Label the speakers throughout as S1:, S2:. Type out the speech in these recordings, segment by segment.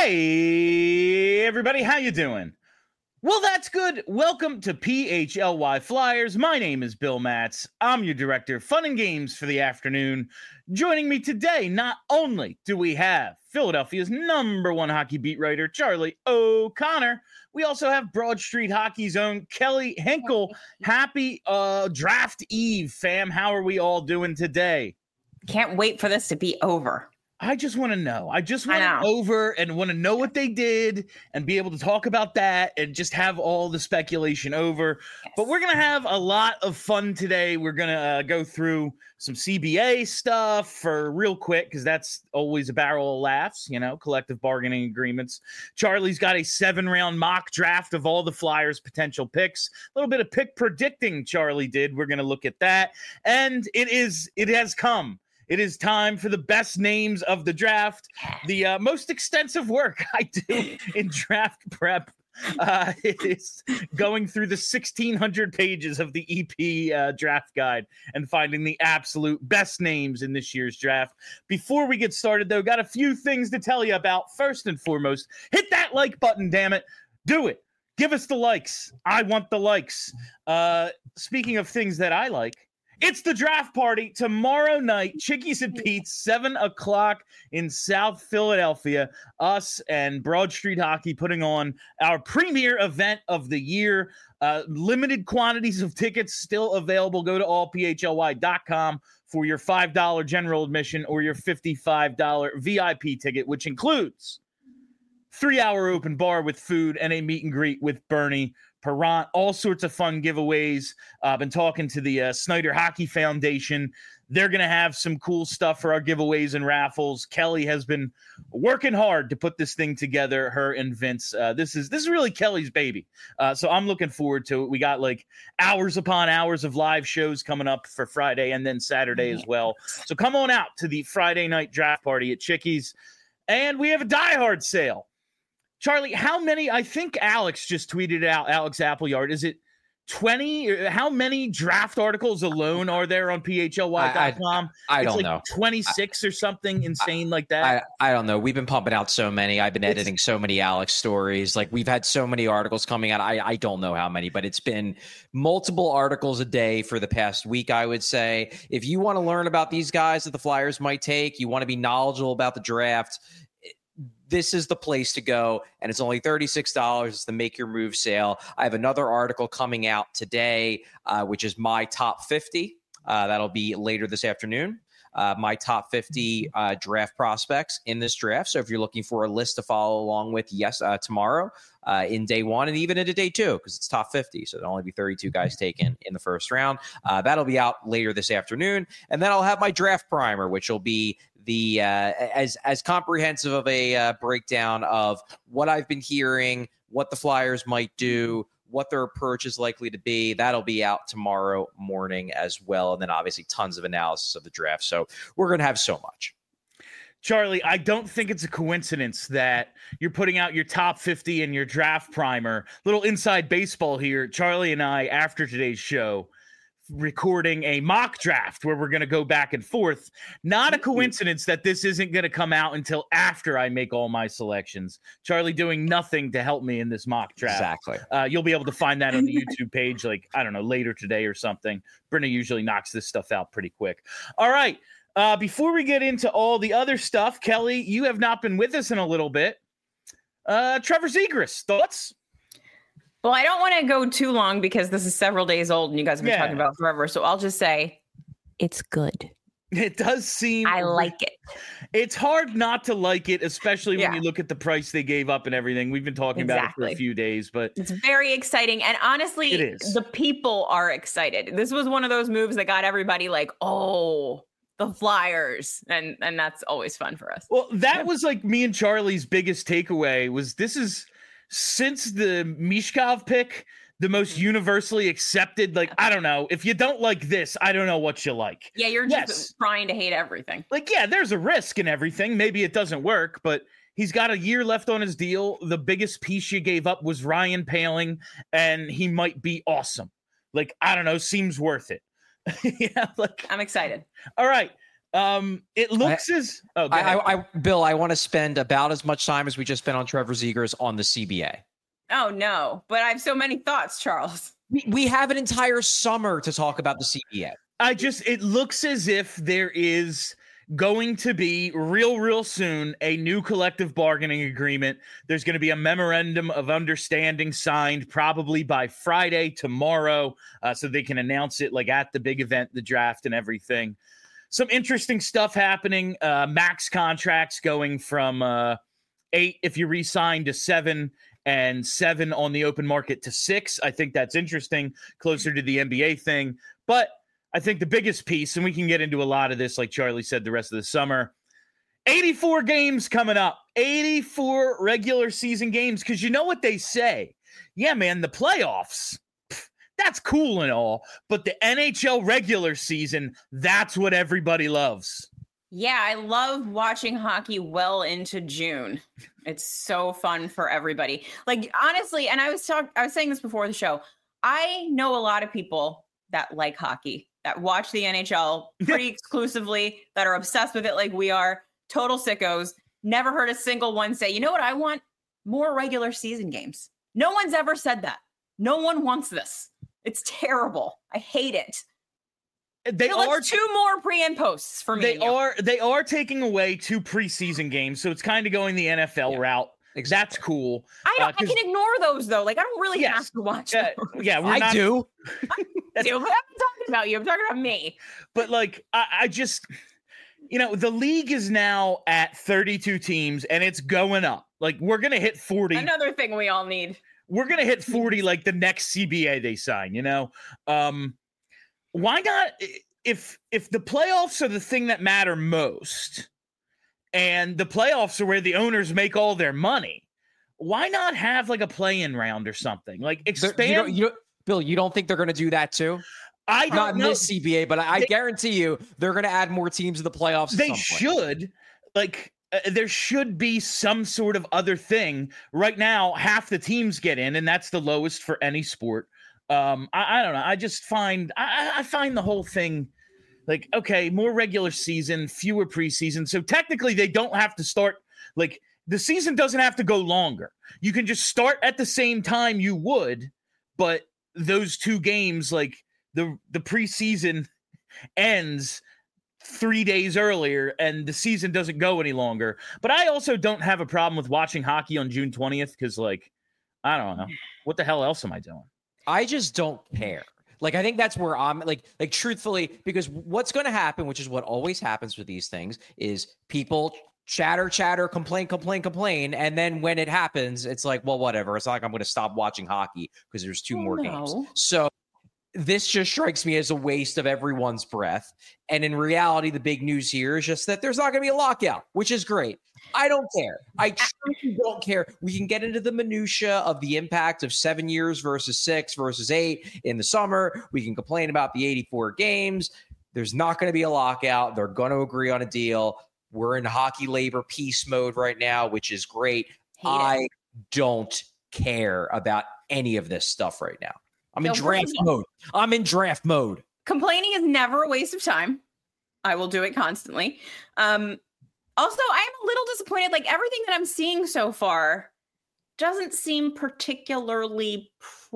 S1: Hey, everybody, how you doing? Well, that's good. Welcome to PHLY Flyers. My name is Bill Matz. I'm your director of fun and games for the afternoon. Joining me today, not only do we have Philadelphia's #1 hockey beat writer, Charlie O'Connor, we also have Broad Street Hockey's own Kelly Hinkle. Happy draft eve, fam. How are we all doing today?
S2: Can't wait for this to be over.
S1: I just want to know. I just want it over and want to know what they did and be able to talk about that and just have all the speculation over. Yes. But we're going to have a lot of fun today. We're going to go through some CBA stuff for real quick because that's always a barrel of laughs, you know, collective bargaining agreements. Charlie's got a 7-round mock draft of all the Flyers' potential picks. A little bit of pick predicting Charlie did. We're going to look at that. And it has come. It is time for the best names of the draft, the most extensive work I do in draft prep. It is going through the 1,600 pages of the EP draft guide and finding the absolute best names in this year's draft. Before we get started, though, got a few things to tell you about. First and foremost, hit that like button, damn it. Do it. Give us the likes. I want the likes. Speaking of things that I like, it's the draft party tomorrow night, Chickies and Pete's, 7 o'clock in South Philadelphia. Us and Broad Street Hockey putting on our premier event of the year. Limited quantities of tickets still available. Go to allphly.com for your $5 general admission or your $55 VIP ticket, which includes 3-hour open bar with food and a meet and greet with Bernie Parent, all sorts of fun giveaways. Been talking to the Snyder Hockey Foundation. They're going to have some cool stuff for our giveaways and raffles. Kelly has been working hard to put this thing together, her and Vince. This is really Kelly's baby. So I'm looking forward to it. We got like hours upon hours of live shows coming up for Friday and then Saturday as well. So come on out to the Friday night draft party at Chickies. And we have a Die Hard sale. Charlie, how many? I think Alex just tweeted out, Alex Appleyard. Is it 20? How many draft articles alone are there on PHLY.com?
S3: I don't know.
S1: 26 or something insane like that?
S3: I don't know. We've been pumping out so many. I've been editing so many Alex stories. Like, we've had so many articles coming out. I don't know how many, but it's been multiple articles a day for the past week, I would say. If you want to learn about these guys that the Flyers might take, you want to be knowledgeable about the draft, this is the place to go, and it's only $36. It's the Make Your Move sale. I have another article coming out today, which is my top 50. That'll be later this afternoon. My top 50 draft prospects in this draft. So if you're looking for a list to follow along with, tomorrow in day one and even into day two, because it's top 50. So there'll only be 32 guys taken in the first round. That'll be out later this afternoon. And then I'll have my draft primer, which will be the as comprehensive of a breakdown of what I've been hearing, what the Flyers might do, what their approach is likely to be. That'll be out tomorrow morning as well. And then obviously tons of analysis of the draft. So we're going to have so much.
S1: Charlie, I don't think it's a coincidence that you're putting out your top 50 and your draft primer. Little inside baseball here. Charlie and I, after today's show, recording a mock draft where we're going to go back and forth. Not a coincidence that this isn't going to come out until after I make all my selections. Charlie doing nothing to help me in this mock draft.
S3: Exactly.
S1: You'll be able to find that on the YouTube page, like, I don't know, later today or something. Brenna usually knocks this stuff out pretty quick. All right. Before we get into all the other stuff, Kelly, you have not been with us in a little bit. Trevor Zegras, thoughts?
S2: Well, I don't want to go too long because this is several days old and you guys have been talking about it forever. So I'll just say it's good.
S1: It does seem...
S2: I like it.
S1: It's hard not to like it, especially when you look at the price they gave up and everything. We've been talking about it for a few days, but...
S2: It's very exciting. And honestly,
S1: it is.
S2: The people are excited. This was one of those moves that got everybody like, oh... the Flyers, and that's always fun for us.
S1: Well, that was like me and Charlie's biggest takeaway was this is, since the Michkov pick, the most universally accepted, like, I don't know, if you don't like this, I don't know what you like.
S2: Yeah, you're just trying to hate everything.
S1: Like, yeah, there's a risk in everything. Maybe it doesn't work, but he's got a year left on his deal. The biggest piece you gave up was Ryan Poehling, and he might be awesome. Like, I don't know, seems worth it. Yeah, like,
S2: I'm excited.
S1: All right. It looks
S3: Bill, I want to spend about as much time as we just spent on Trevor Zegras on the CBA.
S2: Oh no, but I have so many thoughts, Charles.
S3: We have an entire summer to talk about the CBA.
S1: It looks as if there is going to be real soon a new collective bargaining agreement. There's going to be a memorandum of understanding signed probably by Friday, tomorrow, so they can announce it like at the big event, the draft and everything. Some interesting stuff happening. Max contracts going from 8 if you re-sign to 7, and 7 on the open market to 6. I think that's interesting, closer to the NBA thing. But I think the biggest piece, and we can get into a lot of this, like Charlie said, the rest of the summer, 84 games coming up, 84 regular season games. Because you know what they say? Yeah, man, the playoffs, that's cool and all. But the NHL regular season, that's what everybody loves.
S2: Yeah, I love watching hockey well into June. It's so fun for everybody. Like, honestly, and I was saying this before the show, I know a lot of people that like hockey, that watch the NHL pretty exclusively, that are obsessed with it like we are, total sickos. Never heard a single one say, you know what I want? More regular season games. No one's ever said that. No one wants this. It's terrible. I hate it.
S1: They are
S2: 2 more pre and posts for me.
S1: They are taking away 2 preseason games, so it's kind of going the NFL route. Exactly. That's cool.
S2: I can ignore those though. Like I don't really have to watch those.
S1: Yeah,
S3: I do.
S2: I'm not talking about you. I'm talking about me.
S1: But like, I just, the league is now at 32 teams, and it's going up. Like we're gonna hit 40.
S2: Another thing we all need.
S1: We're gonna hit 40 like the next CBA they sign. Why not? If the playoffs are the thing that matter most, and the playoffs are where the owners make all their money, why not have like a play-in round or something? Like expand.
S3: Bill, you don't think they're going to do that too?
S1: I don't
S3: Not
S1: know.
S3: in this CBA, but I guarantee you they're going to add more teams to the playoffs.
S1: They should. Like there should be some sort of other thing. Right now, half the teams get in, and that's the lowest for any sport. I don't know. I just find I find the whole thing like, okay, more regular season, fewer preseason. So technically they don't have to start, like the season doesn't have to go longer. You can just start at the same time you would, but those 2 games, like the preseason ends 3 days earlier and the season doesn't go any longer. But I also don't have a problem with watching hockey on June 20th because, like, I don't know. What the hell else am I doing?
S3: I just don't care. Like, I think that's where I'm like truthfully, because what's going to happen, which is what always happens with these things, is people chatter, complain. And then when it happens, it's like, well, whatever. It's not like I'm going to stop watching hockey because there's 2 more games. So this just strikes me as a waste of everyone's breath. And in reality, the big news here is just that there's not going to be a lockout, which is great. I don't care. I truly don't care. We can get into the minutia of the impact of 7 years versus 6 versus 8 in the summer. We can complain about the 84 games. There's not going to be a lockout. They're going to agree on a deal. We're in hockey labor peace mode right now, which is great. I don't care about any of this stuff right now. I'm in draft mode.
S2: Complaining is never a waste of time. I will do it constantly. Also, I am a little disappointed. Like everything that I'm seeing so far doesn't seem particularly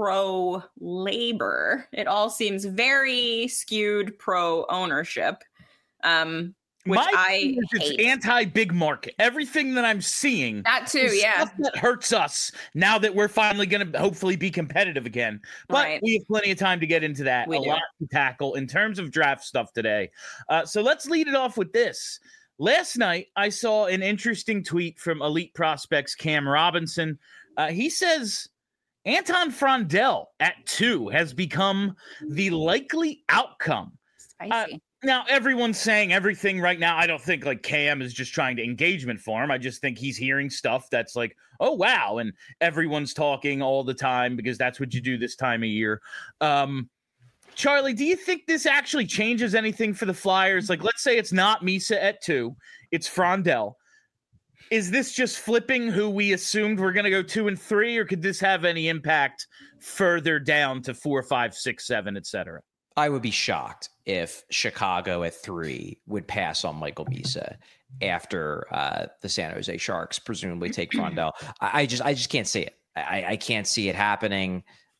S2: pro-labor. It all seems very skewed pro-ownership, which I hate.
S1: It's anti-big market. Everything that I'm seeing,
S2: that too,
S1: stuff that hurts us now that we're finally going to hopefully be competitive again. But we have plenty of time to get into that. A lot to tackle in terms of draft stuff today. So let's lead it off with this. Last night, I saw an interesting tweet from Elite Prospects Cam Robinson. He says Anton Frondell at 2 has become the likely outcome.
S2: Spicy.
S1: Now, everyone's saying everything right now. I don't think like Cam is just trying to engagement for him. I just think he's hearing stuff that's like, oh, wow. And everyone's talking all the time because that's what you do this time of year. Charlie, do you think this actually changes anything for the Flyers? Like, let's say it's not Misa at 2, it's Frondell. Is this just flipping who we assumed we're going to go 2 and 3, or could this have any impact further down to 4, 5, 6, 7, et cetera?
S3: I would be shocked if Chicago at 3 would pass on Michael Misa after the San Jose Sharks presumably take Frondell. I just can't see it. I can't see it happening.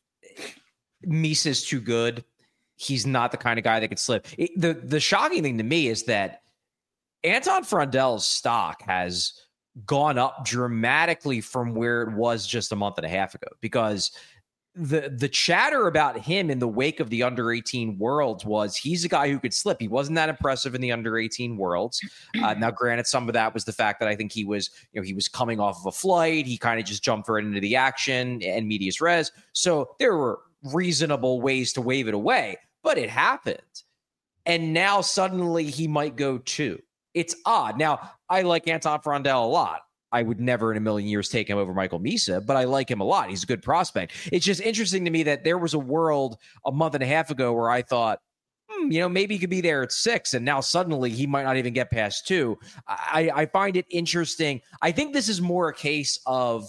S3: Misa's too good. He's not the kind of guy that could slip. The shocking thing to me is that Anton Frondell's stock has gone up dramatically from where it was just a month and a half ago, because the chatter about him in the wake of the under 18 Worlds was he's a guy who could slip. He wasn't that impressive in the under 18 Worlds. Now, granted, some of that was the fact that I think he was coming off of a flight. He kind of just jumped right into the action and medias res. So there were reasonable ways to wave it away, but it happened. And now suddenly he might go 2. It's odd. Now, I like Anton Frondell a lot. I would never in a million years take him over Michael Misa, but I like him a lot. He's a good prospect. It's just interesting to me that there was a world a month and a half ago where I thought, maybe he could be there at 6, and now suddenly he might not even get past 2. I find it interesting. I think this is more a case of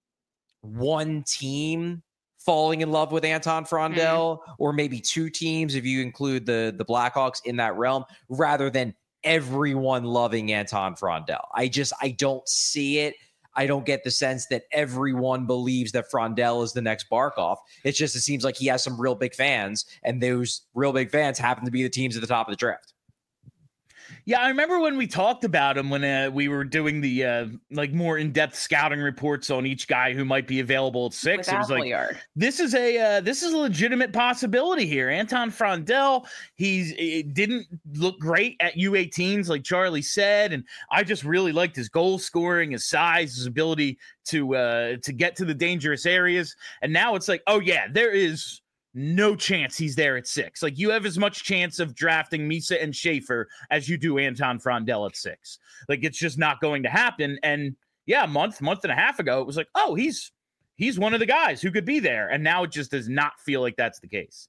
S3: one team falling in love with Anton Frondell, or maybe 2 teams if you include the Blackhawks in that realm, rather than everyone loving Anton Frondell. I don't see it. I don't get the sense that everyone believes that Frondell is the next Barkov. It seems like he has some real big fans, and those real big fans happen to be the teams at the top of the draft.
S1: Yeah, I remember when we talked about him when we were doing the more in-depth scouting reports on each guy who might be available at 6. It was like, this is a legitimate possibility here. Anton Frondell, it didn't look great at U18s, like Charlie said, and I just really liked his goal scoring, his size, his ability to get to the dangerous areas. And now it's like, oh yeah, there is no chance he's there at 6. Like, you have as much chance of drafting Misa and Schaefer as you do Anton Frondell at 6. Like, it's just not going to happen. And yeah, a month and a half ago, it was like, oh, he's one of the guys who could be there. And now it just does not feel like that's the case.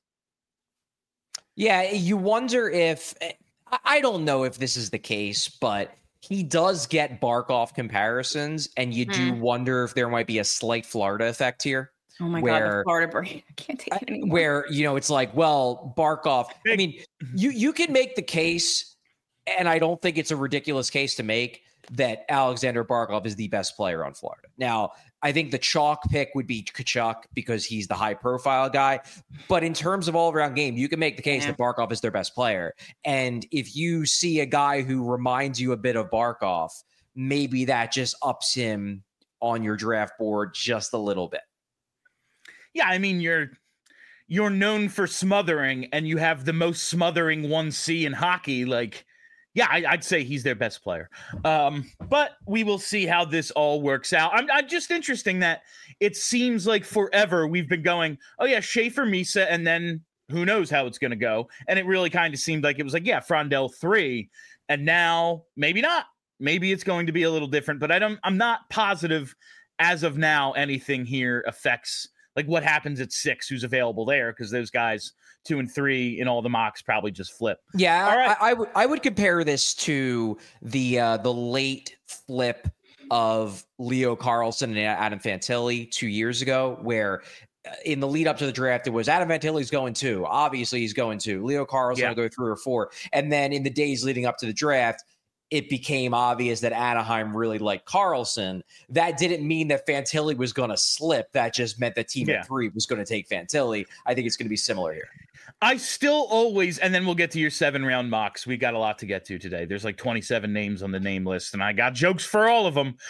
S3: Yeah, you wonder if, I don't know if this is the case, but he does get Barkov comparisons, and you do wonder if there might be a slight Florida effect here.
S2: Oh my God, the Florida brain. I can't take it anymore.
S3: Where, it's like, well, Barkov, I mean, you can make the case, and I don't think it's a ridiculous case to make, that Alexander Barkov is the best player on Florida. Now, I think the chalk pick would be Tkachuk because he's the high-profile guy. But in terms of all-around game, you can make the case that Barkov is their best player. And if you see a guy who reminds you a bit of Barkov, maybe that just ups him on your draft board just a little bit.
S1: Yeah, I mean, you're known for smothering, and you have the most smothering 1C in hockey. Like, yeah, I'd say he's their best player. But we will see how this all works out. I'm just interesting that it seems like forever we've been going, oh yeah, Schaefer, Misa, and then who knows how it's going to go. And it really kind of seemed like it was like, yeah, Frondell 3, and now maybe not. Maybe it's going to be a little different, but I'm not positive as of now anything here affects like what happens at 6, who's available there, because those guys 2 and 3 in all the mocks probably just flip.
S3: Yeah, all right. I would compare this to the late flip of Leo Carlsson and Adam Fantilli 2 years ago, where in the lead up to the draft, it was Adam Fantilli's going 2. Obviously, he's going 2. Leo Carlsson will go 3 or 4. And then in the days leading up to the draft, it became obvious that Anaheim really liked Carlsson. That didn't mean that Fantilli was going to slip. That just meant that team at 3 was going to take Fantilli. I think it's going to be similar here.
S1: I still always, and then we'll get to your 7-round mocks. We got a lot to get to today. There's like 27 names on the name list, and I got jokes for all of them.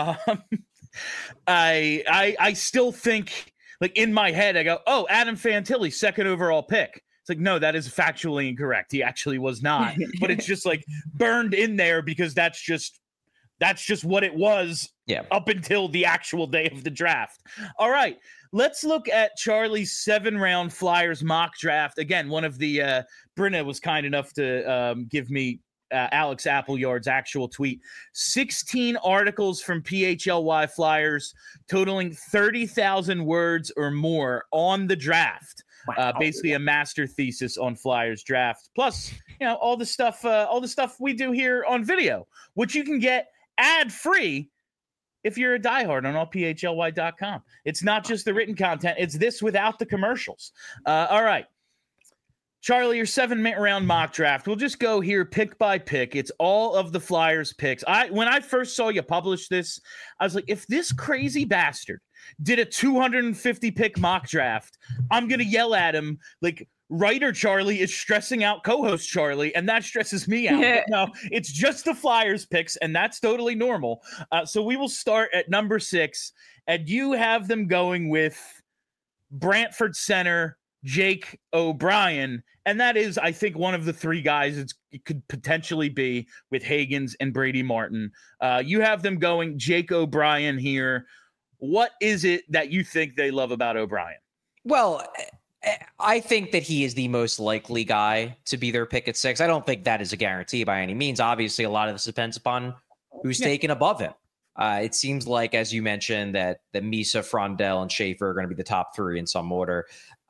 S1: I still think, like, in my head, I go, oh, Adam Fantilli, 2nd overall pick. It's like, no, that is factually incorrect. He actually was not, but it's just like burned in there because that's just what it was up until the actual day of the draft. All right, let's look at Charlie's 7-round Flyers mock draft. Again, one of the Brinna was kind enough to give me Alex Appleyard's actual tweet. 16 articles from PHLY Flyers totaling 30,000 words or more on the draft. Wow. Basically a master thesis on Flyers draft. Plus, all the stuff we do here on video, which you can get ad-free if you're a diehard on allphly.com. It's not just the written content. It's this without the commercials. All right. Charlie, your 7-minute round mock draft. We'll just go here pick by pick. It's all of the Flyers picks. When I first saw you publish this, I was like, if this crazy bastard did a 250 pick mock draft, I'm going to yell at him like writer Charlie is stressing out co-host Charlie, and that stresses me out. But no, it's just the Flyers picks, and that's totally normal. So we will start at number 6, and you have them going with Brantford center Jake O'Brien, and that is, I think, one of the 3 guys it could potentially be with Hagans and Brady Martin. You have them going Jake O'Brien here. What is it that you think they love about O'Brien?
S3: Well, I think that he is the most likely guy to be their pick at 6. I don't think that is a guarantee by any means. Obviously, a lot of this depends upon who's taken above him. It seems like, as you mentioned, that Misa, Frondell, and Schaefer are going to be the top 3 in some order.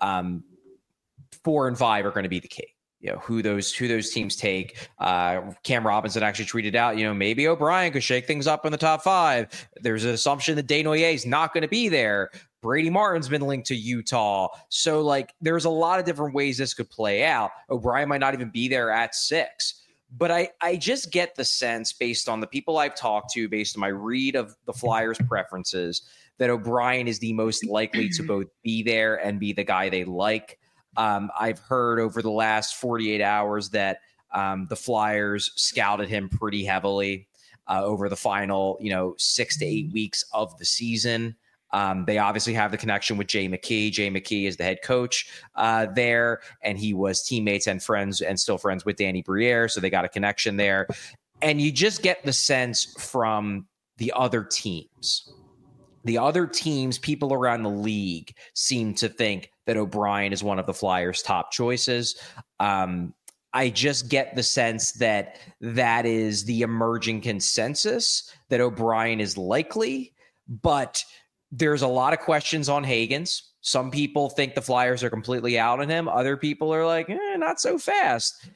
S3: 4 and 5 are going to be the key. Who those teams take. Cam Robinson actually tweeted out, maybe O'Brien could shake things up in the top 5. There's an assumption that Desnoyers is not going to be there. Brady Martin's been linked to Utah. So, there's a lot of different ways this could play out. O'Brien might not even be there at 6. But I just get the sense, based on the people I've talked to, based on my read of the Flyers' preferences, that O'Brien is the most likely to both be there and be the guy they like. I've heard over the last 48 hours that the Flyers scouted him pretty heavily over the final, 6 to 8 weeks of the season. They obviously have the connection with Jay McKee. Jay McKee is the head coach there, and he was teammates and friends and still friends with Danny Briere, so they got a connection there. And you just get the sense from the other teams. The other teams, people around the league seem to think that O'Brien is one of the Flyers' top choices. I just get the sense that that is the emerging consensus, that O'Brien is likely, but there's a lot of questions on Hagans. Some people think the Flyers are completely out on him. Other people are like, not so fast.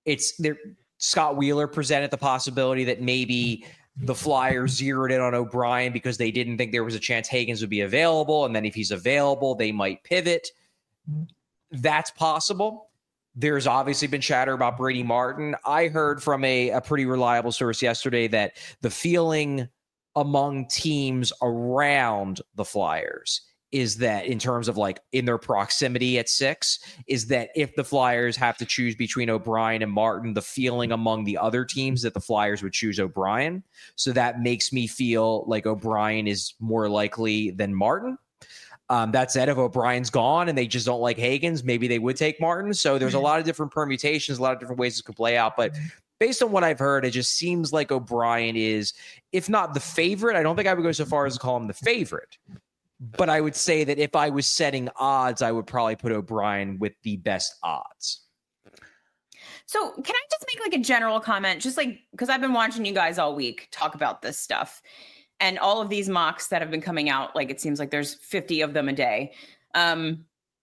S3: Scott Wheeler presented the possibility that maybe the Flyers zeroed in on O'Brien because they didn't think there was a chance Hagans would be available. And then if he's available, they might pivot. That's possible. There's obviously been chatter about Brady Martin. I heard from a pretty reliable source yesterday that the feeling among teams around the Flyers is that, in terms of in their proximity at 6, is that if the Flyers have to choose between O'Brien and Martin, the feeling among the other teams that the Flyers would choose O'Brien. So that makes me feel like O'Brien is more likely than Martin. That said, if O'Brien's gone and they just don't like Hagans, maybe they would take Martin. So there's a lot of different permutations, a lot of different ways this could play out. But based on what I've heard, it just seems like O'Brien is, if not the favorite, I don't think I would go so far as to call him the favorite. But I would say that if I was setting odds, I would probably put O'Brien with the best odds.
S2: So can I just make a general comment? Just because I've been watching you guys all week talk about this stuff and all of these mocks that have been coming out. It seems like there's 50 of them a day. And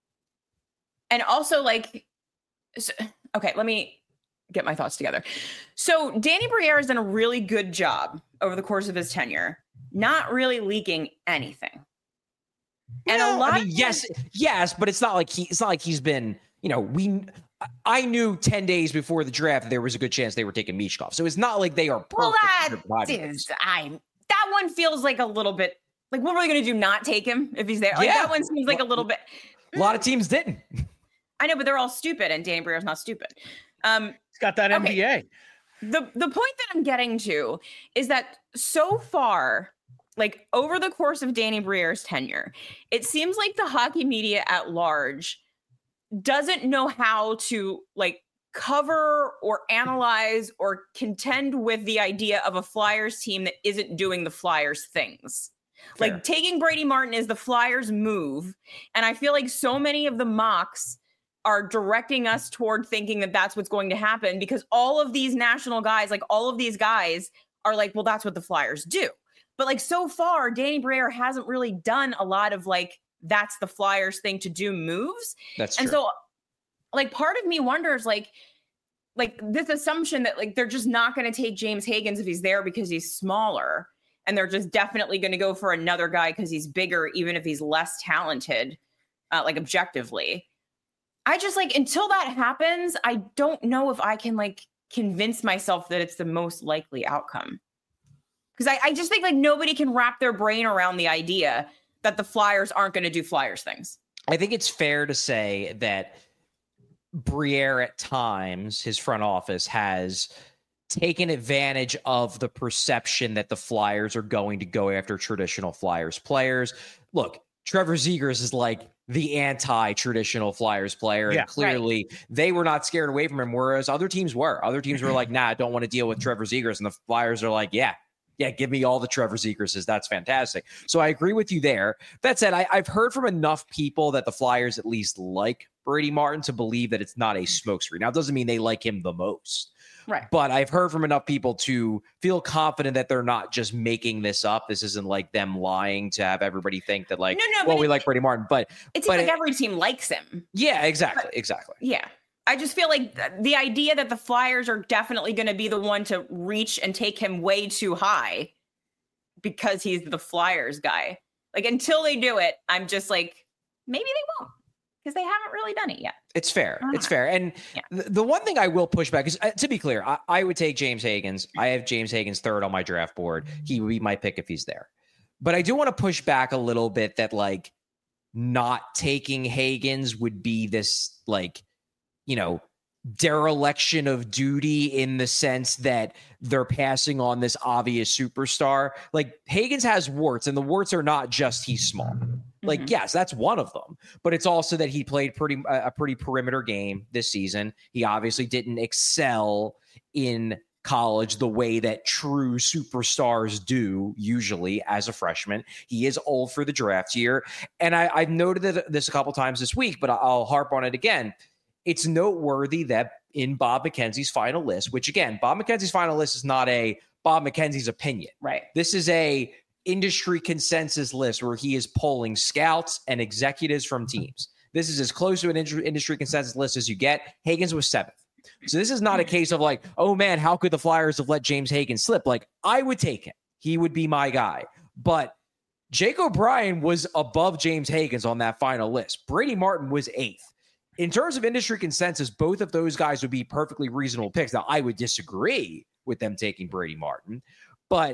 S2: also okay, let me get my thoughts together. So Danny Briere has done a really good job over the course of his tenure, not really leaking anything. And a lot
S3: yes, but it's not like he's been, I knew 10 days before the draft there was a good chance they were taking Michkov. So it's not like they are perfect.
S2: Well, that one feels like a little bit what are we going to do? Not take him if he's there? That one seems like a little bit.
S3: A lot of teams didn't.
S2: I know, but they're all stupid, and Danny Briere's not stupid.
S1: He's got that MBA.
S2: The point that I'm getting to is that so far, over the course of Danny Briere's tenure, it seems like the hockey media at large doesn't know how to cover or analyze or contend with the idea of a Flyers team that isn't doing the Flyers things. Fair. Taking Brady Martin is the Flyers move. And I feel like so many of the mocks are directing us toward thinking that that's what's going to happen, because all of these national guys, all of these guys are well, that's what the Flyers do. But so far, Danny Briere hasn't really done a lot of that's the Flyers thing to do moves.
S3: That's true.
S2: And so part of me wonders this assumption that they're just not going to take James Hagans if he's there because he's smaller, and they're just definitely going to go for another guy because he's bigger, even if he's less talented, objectively. I just like, until that happens, I don't know if I can like convince myself that it's the most likely outcome. Because I just think like nobody can wrap their brain around the idea that the Flyers aren't going to do Flyers things.
S3: I think it's fair to say that Briere at times, his front office, has taken advantage of the perception that the Flyers are going to go after traditional Flyers players. Look, Trevor Zegras is like the anti-traditional Flyers player. And clearly they were not scared away from him, whereas other teams were. Other teams were like, nah, I don't want to deal with Trevor Zegras. And the Flyers are like, yeah, give me all the Trevor Zegrases. That's fantastic. So I agree with you there. That said, I've heard from enough people that the Flyers at least like Brady Martin to believe that it's not a smokescreen. Now, it doesn't mean they like him the most.
S2: Right.
S3: But I've heard from enough people to feel confident that they're not just making this up. This isn't like them lying to have everybody think that like, we like Brady Martin. But
S2: it seems like every team likes him.
S3: Yeah, exactly. Exactly.
S2: Yeah. I just feel like the idea that the Flyers are definitely going to be the one to reach and take him way too high because he's the Flyers guy. Like, until they do it, I'm just like, maybe they won't, because they haven't really done it yet.
S3: It's fair. It's fair. And the one thing I will push back is, to be clear, I would take James Higgins. I have James Higgins third on my draft board. He would be my pick if he's there. But I do want to push back a little bit that like not taking Higgins would be this like, dereliction of duty in the sense that they're passing on this obvious superstar. Like, Higgins has warts, and the warts are not just he's small. Like, yes, that's one of them, but it's also that he played a pretty perimeter game this season. He obviously didn't excel in college the way that true superstars do usually as a freshman. He is old for the draft year. And I've noted this a couple times this week, but I'll harp on it again. It's noteworthy that in Bob McKenzie's final list, which again, Bob McKenzie's final list is not a Bob McKenzie's opinion.
S2: Right.
S3: This is a industry consensus list where he is polling scouts and executives from teams. This is as close to an industry consensus list as you get. Higgins was 7th. So this is not a case of like, oh man, how could the Flyers have let James Higgins slip? Like, I would take him. He would be my guy. But Jake O'Brien was above James Higgins on that final list. Brady Martin was 8th. In terms of industry consensus, both of those guys would be perfectly reasonable picks. Now, I would disagree with them taking Brady Martin, but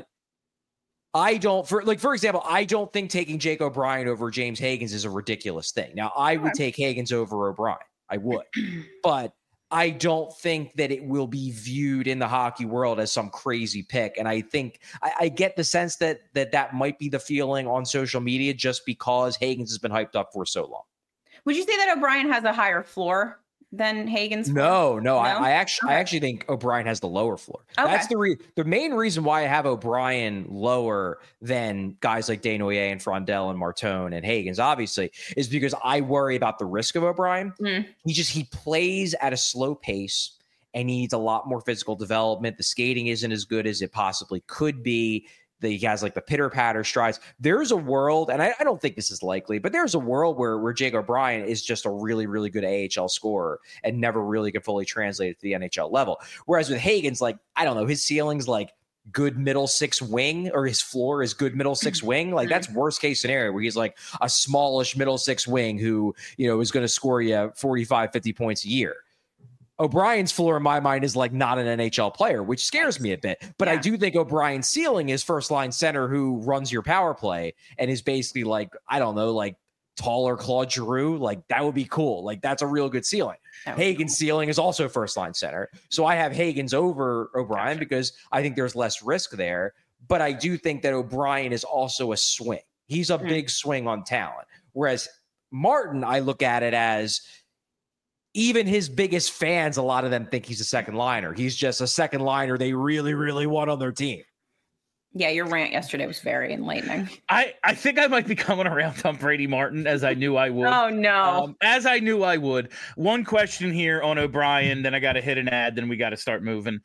S3: for example, I don't think taking Jake O'Brien over James Higgins is a ridiculous thing. Now, I would take Higgins over O'Brien. I would. But I don't think that it will be viewed in the hockey world as some crazy pick. And I think I get the sense that might be the feeling on social media just because Higgins has been hyped up for so long.
S2: Would you say that O'Brien has a higher floor than Higgins?
S3: No. I actually think O'Brien has the lower floor. Okay. That's the main reason why I have O'Brien lower than guys like Desnoyers and Frondell and Martone and Higgins, obviously, is because I worry about the risk of O'Brien. He plays at a slow pace and he needs a lot more physical development. The skating isn't as good as it possibly could be. He has like the pitter-patter strides. There's a world, and I don't think this is likely, but there's a world where Jake O'Brien is just a really, really good AHL scorer and never really could fully translate it to the NHL level. Whereas with Higgins, like, I don't know, his ceiling's like good middle 6 wing, or his floor is good middle 6 wing. Like, that's worst case scenario where he's like a smallish middle 6 wing who, is going to score you 45, 50 points a year. O'Brien's floor, in my mind, is like not an NHL player, which scares me a bit. But I do think O'Brien's ceiling is first-line center who runs your power play and is basically like, I don't know, like taller Claude Giroux. Like, that would be cool. Like, that's a real good ceiling. Higgins' ceiling is also first-line center. So I have Higgins over O'Brien because I think there's less risk there. But I do think that O'Brien is also a swing. He's a big swing on talent. Whereas Martin, I look at it as even his biggest fans, a lot of them think he's a second liner. He's just a second liner they really, really want on their team.
S2: Yeah, your rant yesterday was very enlightening.
S1: I think I might be coming around on Brady Martin, as I knew I would.
S2: Oh, no.
S1: As I knew I would. One question here on O'Brien, then I got to hit an ad, then we got to start moving.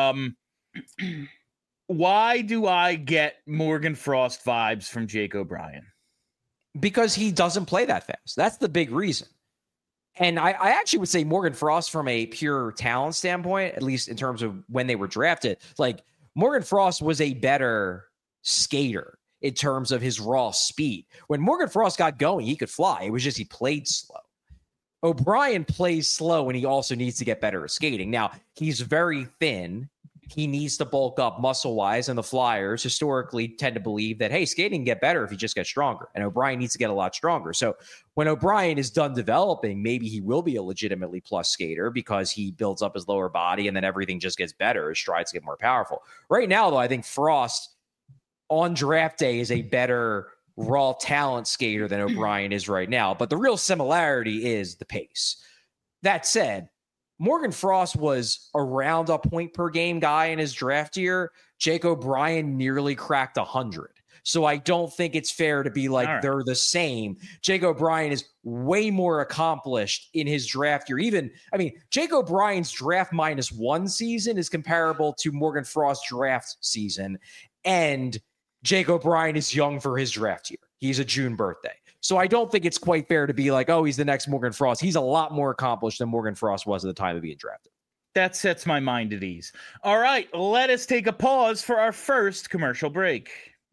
S1: Why do I get Morgan Frost vibes from Jake O'Brien?
S3: Because he doesn't play that fast. That's the big reason. And I actually would say Morgan Frost, from a pure talent standpoint, at least in terms of when they were drafted, like Morgan Frost was a better skater in terms of his raw speed. When Morgan Frost got going, he could fly. It was just he played slow. O'Brien plays slow, and he also needs to get better at skating. Now, he's very thin. He needs to bulk up muscle-wise, and the Flyers historically tend to believe that, hey, skating can get better if he just gets stronger, and O'Brien needs to get a lot stronger. So when O'Brien is done developing, maybe he will be a legitimately plus skater because he builds up his lower body, and then everything just gets better. His strides get more powerful. Right now, though, I think Frost on draft day is a better raw talent skater than O'Brien is right now. But the real similarity is the pace. That said, Morgan Frost was around a point per game guy in his draft year. Jake O'Brien nearly cracked 100. So I don't think it's fair to be like they're the same. Jake O'Brien is way more accomplished in his draft year. Jake O'Brien's draft -1 season is comparable to Morgan Frost's draft season. And Jake O'Brien is young for his draft year. He's a June birthday. So I don't think it's quite fair to be like, oh, he's the next Morgan Frost. He's a lot more accomplished than Morgan Frost was at the time of being drafted.
S1: That sets my mind at ease. All right, let us take a pause for our first commercial break.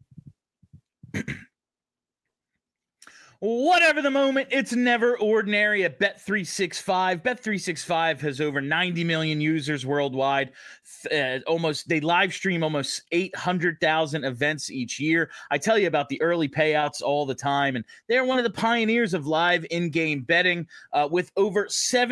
S1: Whatever the moment, it's never ordinary at Bet365. Bet365 has over 90 million users worldwide. They live stream almost 800,000 events each year. I tell you about the early payouts all the time, and they're one of the pioneers of live in-game betting with over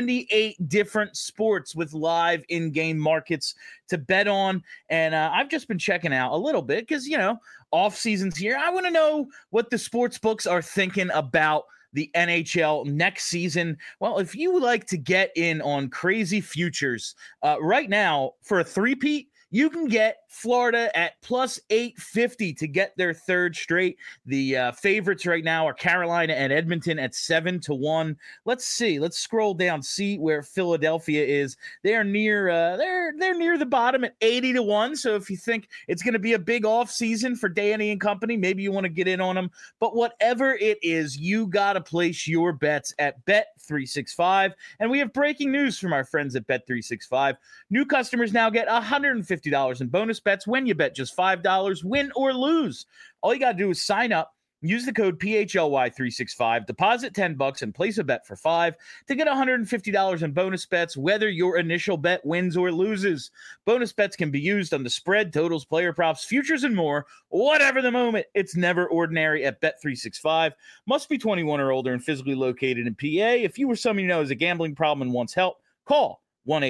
S1: 78 different sports with live in-game markets to bet on. And I've just been checking out a little bit because, off season's here. I want to know what the sports books are thinking about the NHL next season. Well, if you would like to get in on crazy futures right now for a three-peat, you can get Florida at plus 850 to get their third straight. The favorites right now are Carolina and Edmonton at 7-1. Let's see. Let's scroll down, see where Philadelphia is. They're near they're near the bottom at 80-1. So if you think it's going to be a big off season for Danny and company, maybe you want to get in on them. But whatever it is, you got to place your bets at Bet365. And we have breaking news from our friends at Bet365. New customers now get $150 in bonus bets when you bet just $5, win or lose. All you got to do is sign up, use the code PHLY365, deposit $10 and place a bet for $5 to get $150 in bonus bets, whether your initial bet wins or loses. Bonus bets can be used on the spread, totals, player props, futures, and more. Whatever the moment, it's never ordinary at Bet365. Must be 21 or older and physically located in PA. If you or someone you know has a gambling problem and wants help, call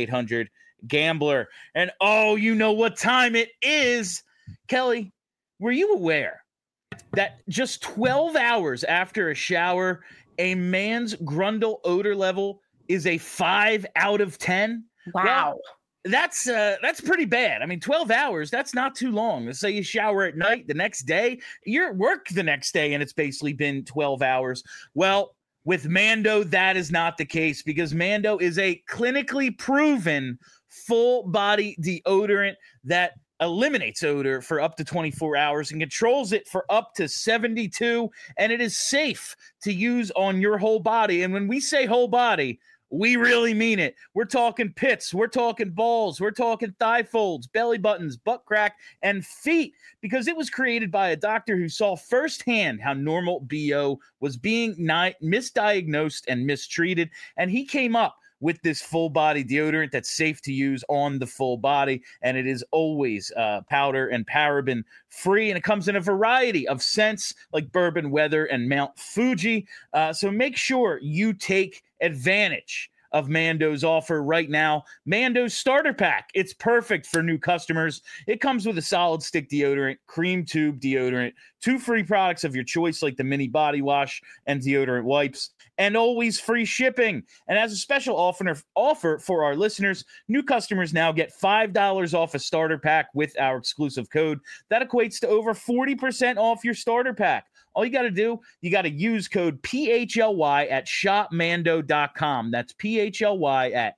S1: 1-800-GAMBLER. And you know what time it is. Kelly, were you aware that just 12 hours after a shower, a man's Grundle odor level is a 5 out of 10?
S2: Wow.
S1: Well, that's pretty bad. 12 hours, that's not too long. Let's say you shower at night, the next day, you're at work the next day, and it's basically been 12 hours. Well, with Mando, that is not the case because Mando is a clinically proven full body deodorant that eliminates odor for up to 24 hours and controls it for up to 72. And it is safe to use on your whole body. And when we say whole body, we really mean it. We're talking pits, we're talking balls, we're talking thigh folds, belly buttons, butt crack, and feet, because it was created by a doctor who saw firsthand how normal BO was being misdiagnosed and mistreated. And he came up with this full body deodorant that's safe to use on the full body. And it is always powder and paraben free. And it comes in a variety of scents like Bourbon Weather and Mount Fuji. So make sure you take advantage of Mando's offer right now. Mando's starter pack. It's perfect for new customers. It comes with a solid stick deodorant, cream tube deodorant, 2 free products of your choice like the mini body wash and deodorant wipes, and always free shipping. And as a special offer for our listeners, new customers now get $5 off a starter pack with our exclusive code. That equates to over 40% off your starter pack. All you got to do, you got to use code PHLY at shopmando.com. That's PHLY at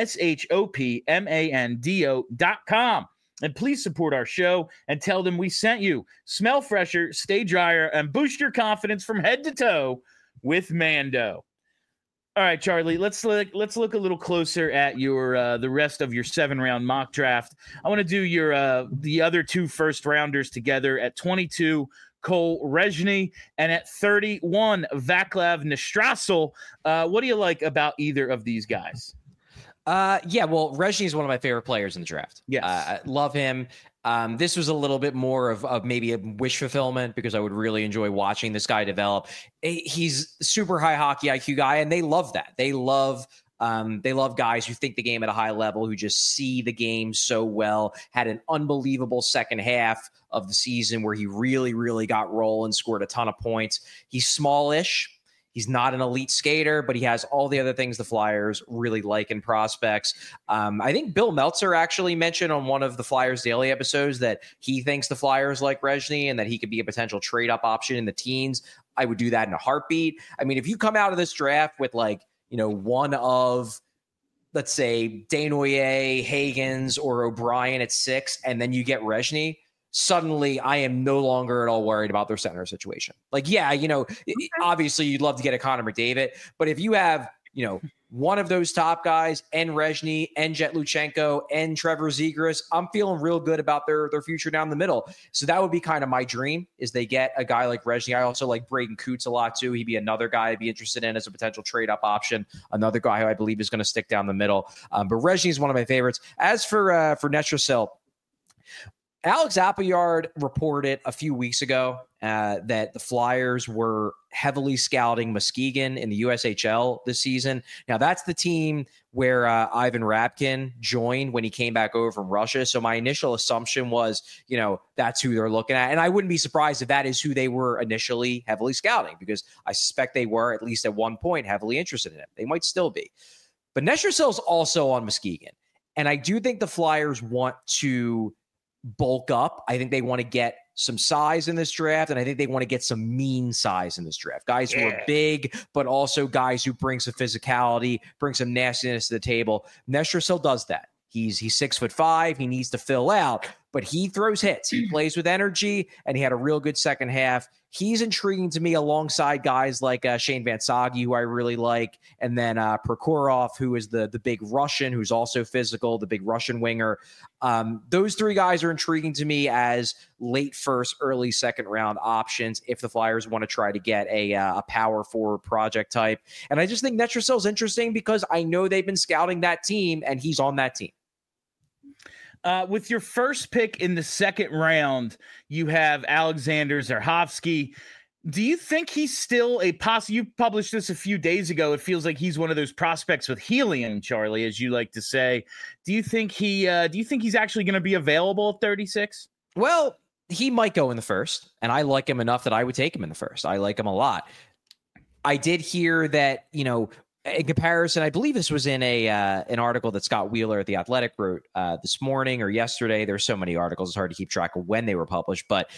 S1: shopmando.com. And please support our show and tell them we sent you. Smell fresher, stay drier, and boost your confidence from head to toe with Mando. All right, Charlie, let's look a little closer at your the rest of your 7-round mock draft. I want to do your the other 2 first rounders together at 22. Cole Rezhny, and at 31, Vaclav Nestrasil. What do you like about either of these guys?
S3: Yeah, well, Rezhny is one of my favorite players in the draft.
S1: Yes.
S3: I love him. This was a little bit more of maybe a wish fulfillment because I would really enjoy watching this guy develop. He's super high hockey IQ guy, and they love that. They love guys who think the game at a high level, who just see the game so well. Had an unbelievable second half of the season where he really, really got rolling, scored a ton of points. He's smallish. He's not an elite skater, but he has all the other things the Flyers really like in prospects. I think Bill Meltzer actually mentioned on one of the Flyers Daily episodes that he thinks the Flyers like Rezhny and that he could be a potential trade-up option in the teens. I would do that in a heartbeat. I mean, if you come out of this draft with one of, let's say, Desnoyers, Hagens, or O'Brien at 6, and then you get Rezhny, suddenly I am no longer at all worried about their center situation. Obviously you'd love to get a Connor McDavid, but if you have, one of those top guys and Rezhny and Jet Luchenko and Trevor Zegras, I'm feeling real good about their future down the middle. So that would be kind of my dream, is they get a guy like Rezhny. I also like Braden Coots a lot too. He'd be another guy I'd be interested in as a potential trade up option. Another guy who I believe is going to stick down the middle. But Rezhny is one of my favorites. As for Nestrasil, Alex Appleyard reported a few weeks ago that the Flyers were heavily scouting Muskegon in the USHL this season. Now, that's the team where Ivan Rabkin joined when he came back over from Russia. So my initial assumption was, that's who they're looking at. And I wouldn't be surprised if that is who they were initially heavily scouting, because I suspect they were, at least at one point, heavily interested in it. They might still be. But Nestrasil is also on Muskegon. And I do think the Flyers want to bulk up. I think they want to get some size in this draft, and I think they want to get some mean size in this draft. Guys who are big, but also guys who bring some physicality, bring some nastiness to the table. Nestrasil does that. He's 6'5". He needs to fill out, but he throws hits. He plays with energy, and he had a real good second half. He's intriguing to me alongside guys like Shane Vansagi, who I really like, and then Prokhorov, who is the big Russian, who's also physical, the big Russian winger. Those three guys are intriguing to me as late first, early second round options if the Flyers want to try to get a power forward project type. And I just think Nestrasil is interesting because I know they've been scouting that team, and he's on that team.
S1: With your first pick in the second round, you have Alexander Zerhovsky. Do you think he's still a you published this a few days ago. It feels like he's one of those prospects with helium, Charlie, as you like to say. Do you think he's actually going to be available at 36?
S3: Well, he might go in the first, and I like him enough that I would take him in the first. I like him a lot. I did hear that, in comparison, I believe this was in an article that Scott Wheeler at The Athletic wrote this morning or yesterday. There's so many articles, it's hard to keep track of when they were published. But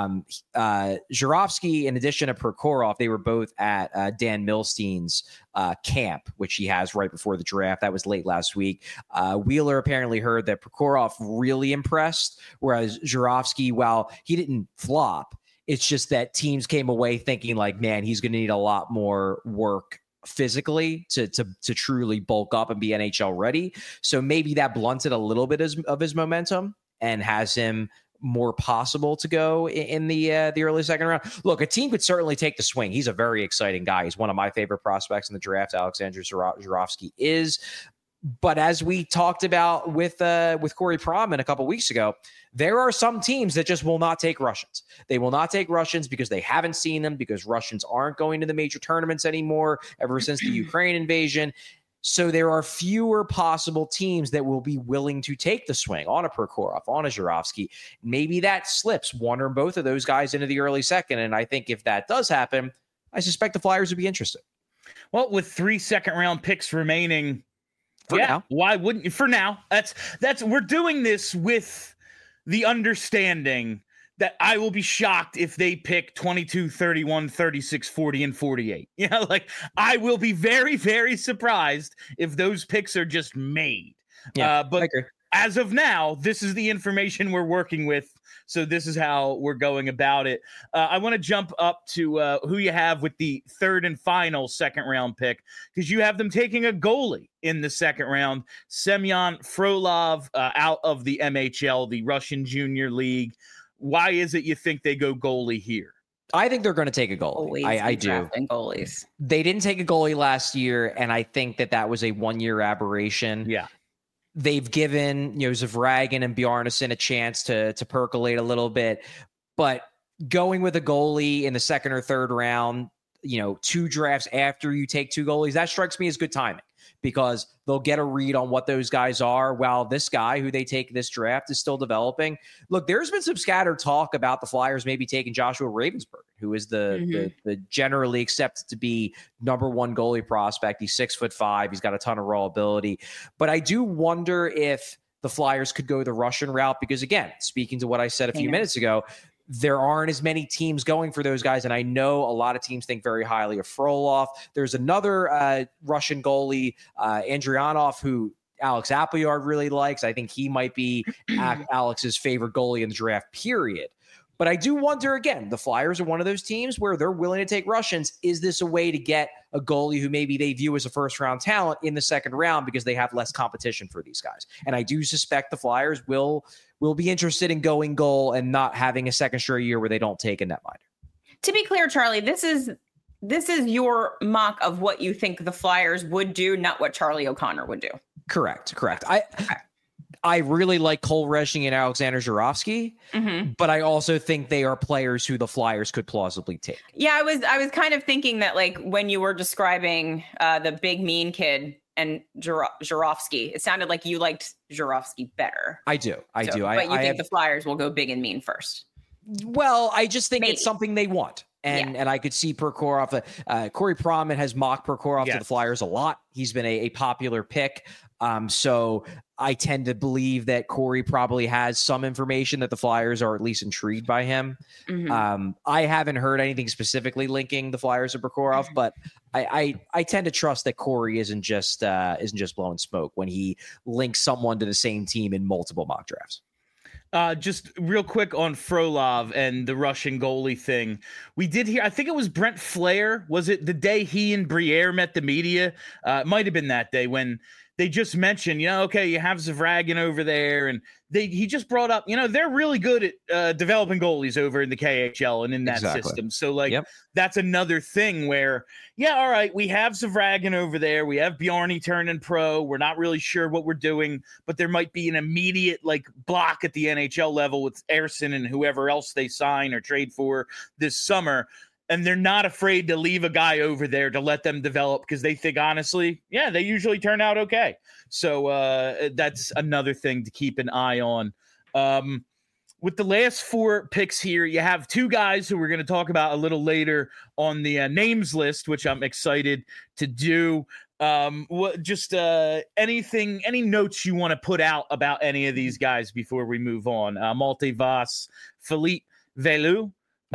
S3: Zhuravsky, in addition to Prokhorov, they were both at Dan Milstein's camp, which he has right before the draft. That was late last week. Wheeler apparently heard that Prokhorov really impressed, whereas Zhuravsky, while he didn't flop, it's just that teams came away thinking like, man, he's going to need a lot more work physically to truly bulk up and be NHL ready. So maybe that blunted a little bit of his momentum and has him more possible to go in the early second round. Look, a team could certainly take the swing. He's a very exciting guy. He's one of my favorite prospects in the draft. Alexander Zhuravsky is. But as we talked about with Corey Pronman a couple weeks ago, there are some teams that just will not take Russians. They will not take Russians because they haven't seen them, because Russians aren't going to the major tournaments anymore ever since the Ukraine invasion. So there are fewer possible teams that will be willing to take the swing on a Prokhorov, on a Zhuravsky. Maybe that slips one or both of those guys into the early second. And I think if that does happen, I suspect the Flyers would be interested.
S1: Well, with 3 second-round picks remaining,
S3: now.
S1: Why wouldn't you? For now, that's we're doing this with the understanding that I will be shocked if they pick 22, 31, 36, 40, and 48. I will be very, very surprised if those picks are just made.
S3: Yeah,
S1: but as of now, this is the information we're working with. So this is how we're going about it. I want to jump up to who you have with the third and final second round pick, because you have them taking a goalie in the second round, Semyon Frolov, out of the MHL, the Russian Junior League. why is it you think they go goalie here?
S3: I think they're going to take a goalie. I do.
S2: Goalies.
S3: They didn't take a goalie last year, and I think that was a one-year aberration.
S1: Yeah.
S3: They've given Zavragin and Bjarnason a chance to percolate a little bit, but going with a goalie in the second or third round, 2 drafts after you take 2 goalies, that strikes me as good timing, because they'll get a read on what those guys are while this guy who they take this draft is still developing. Look, there's been some scattered talk about the Flyers maybe taking Joshua Ravensburg, who is the generally accepted to be number 1 goalie prospect. He's 6'5". He's got a ton of raw ability. But I do wonder if the Flyers could go the Russian route, because, again, speaking to what I said a few minutes ago, there aren't as many teams going for those guys. And I know a lot of teams think very highly of Frolov. There's another Russian goalie, Andrianov, who Alex Appleyard really likes. I think he might be Alex's favorite goalie in the draft, period. But I do wonder, again, the Flyers are one of those teams where they're willing to take Russians. Is this a way to get a goalie who maybe they view as a first-round talent in the second round because they have less competition for these guys? And I do suspect the Flyers will be interested in going goal and not having a second straight year where they don't take a netminder. To
S2: be clear, Charlie, this is your mock of what you think the Flyers would do, not what Charlie O'Connor would do.
S3: Correct. I really like Cole Rezhny and Alexander Zhuravsky, but I also think they are players who the Flyers could plausibly take.
S2: Yeah, I was kind of thinking that, like, when you were describing the big mean kid and Zhuravsky, it sounded like you liked Zhuravsky better.
S3: I do.
S2: But you think the Flyers will go big and mean first?
S3: Well, I just think it's something they want. And I could see Prokhorov. Corey Proman has mocked Prokhorov to the Flyers a lot. He's been a popular pick. So I tend to believe that Corey probably has some information that the Flyers are at least intrigued by him. I haven't heard anything specifically linking the Flyers to Prokhorov, but I tend to trust that Corey isn't just blowing smoke when he links someone to the same team in multiple mock drafts.
S1: Just real quick on Frolov and the Russian goalie thing. We did hear, I think it was Brent Flair. Was it the day he and Briere met the media? It might have been that day when they just mentioned, okay, you have Zavragin over there. And he just brought up, they're really good at developing goalies over in the KHL and in that system. So, that's another thing where, all right, we have Zavragin over there. We have Bjarny turning pro. We're not really sure what we're doing, but there might be an immediate, block at the NHL level with Ersson and whoever else they sign or trade for this summer. And they're not afraid to leave a guy over there to let them develop because they think, honestly, they usually turn out okay. So that's another thing to keep an eye on. With the last 4 picks here, you have 2 guys who we're going to talk about a little later on the names list, which I'm excited to do. Any notes you want to put out about any of these guys before we move on? Malte Voss, Philippe Velou,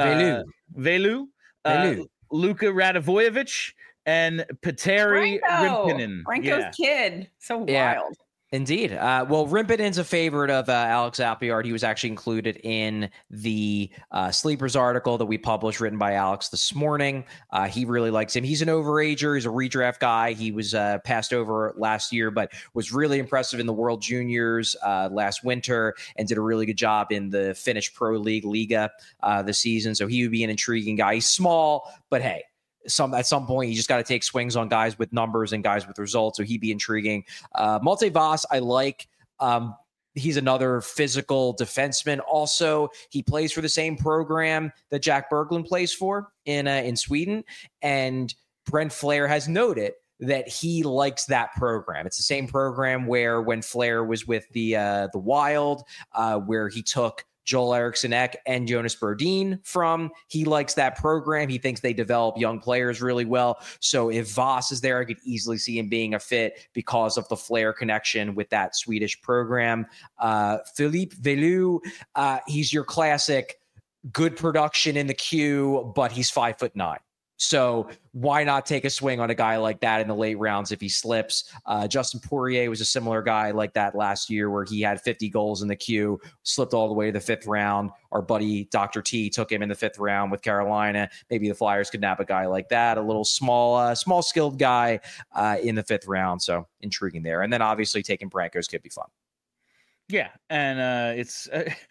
S1: Luka Radivojevic, and Petteri Rimpinen.
S2: Franco's kid. So wild.
S3: Indeed. Well, Rimpinen's a favorite of Alex Appleyard. He was actually included in the Sleepers article that we published, written by Alex this morning. He really likes him. He's an overager. He's a redraft guy. He was passed over last year, but was really impressive in the World Juniors last winter and did a really good job in the Finnish Pro League Liga this season. So he would be an intriguing guy. He's small, but hey, at some point, you just got to take swings on guys with numbers and guys with results. So he'd be intriguing. Malte Voss, I like. He's another physical defenseman. Also, he plays for the same program that Jack Berglund plays for in Sweden. And Brent Flair has noted that he likes that program. It's the same program where when Flair was with the Wild, where he took Joel Eriksson Ek and Jonas Brodin from. He likes that program. He thinks they develop young players really well. So if Voss is there, I could easily see him being a fit because of the Flair connection with that Swedish program. Philippe Velou, he's your classic good production in the queue, but he's 5'9". So why not take a swing on a guy like that in the late rounds if he slips? Justin Poirier was a similar guy like that last year where he had 50 goals in the queue, slipped all the way to the 5th round. Our buddy Dr. T took him in the 5th round with Carolina. Maybe the Flyers could nab a guy like that, a little small skilled guy in the 5th round. So intriguing there. And then obviously taking Brankos could be fun.
S1: Yeah, and it's...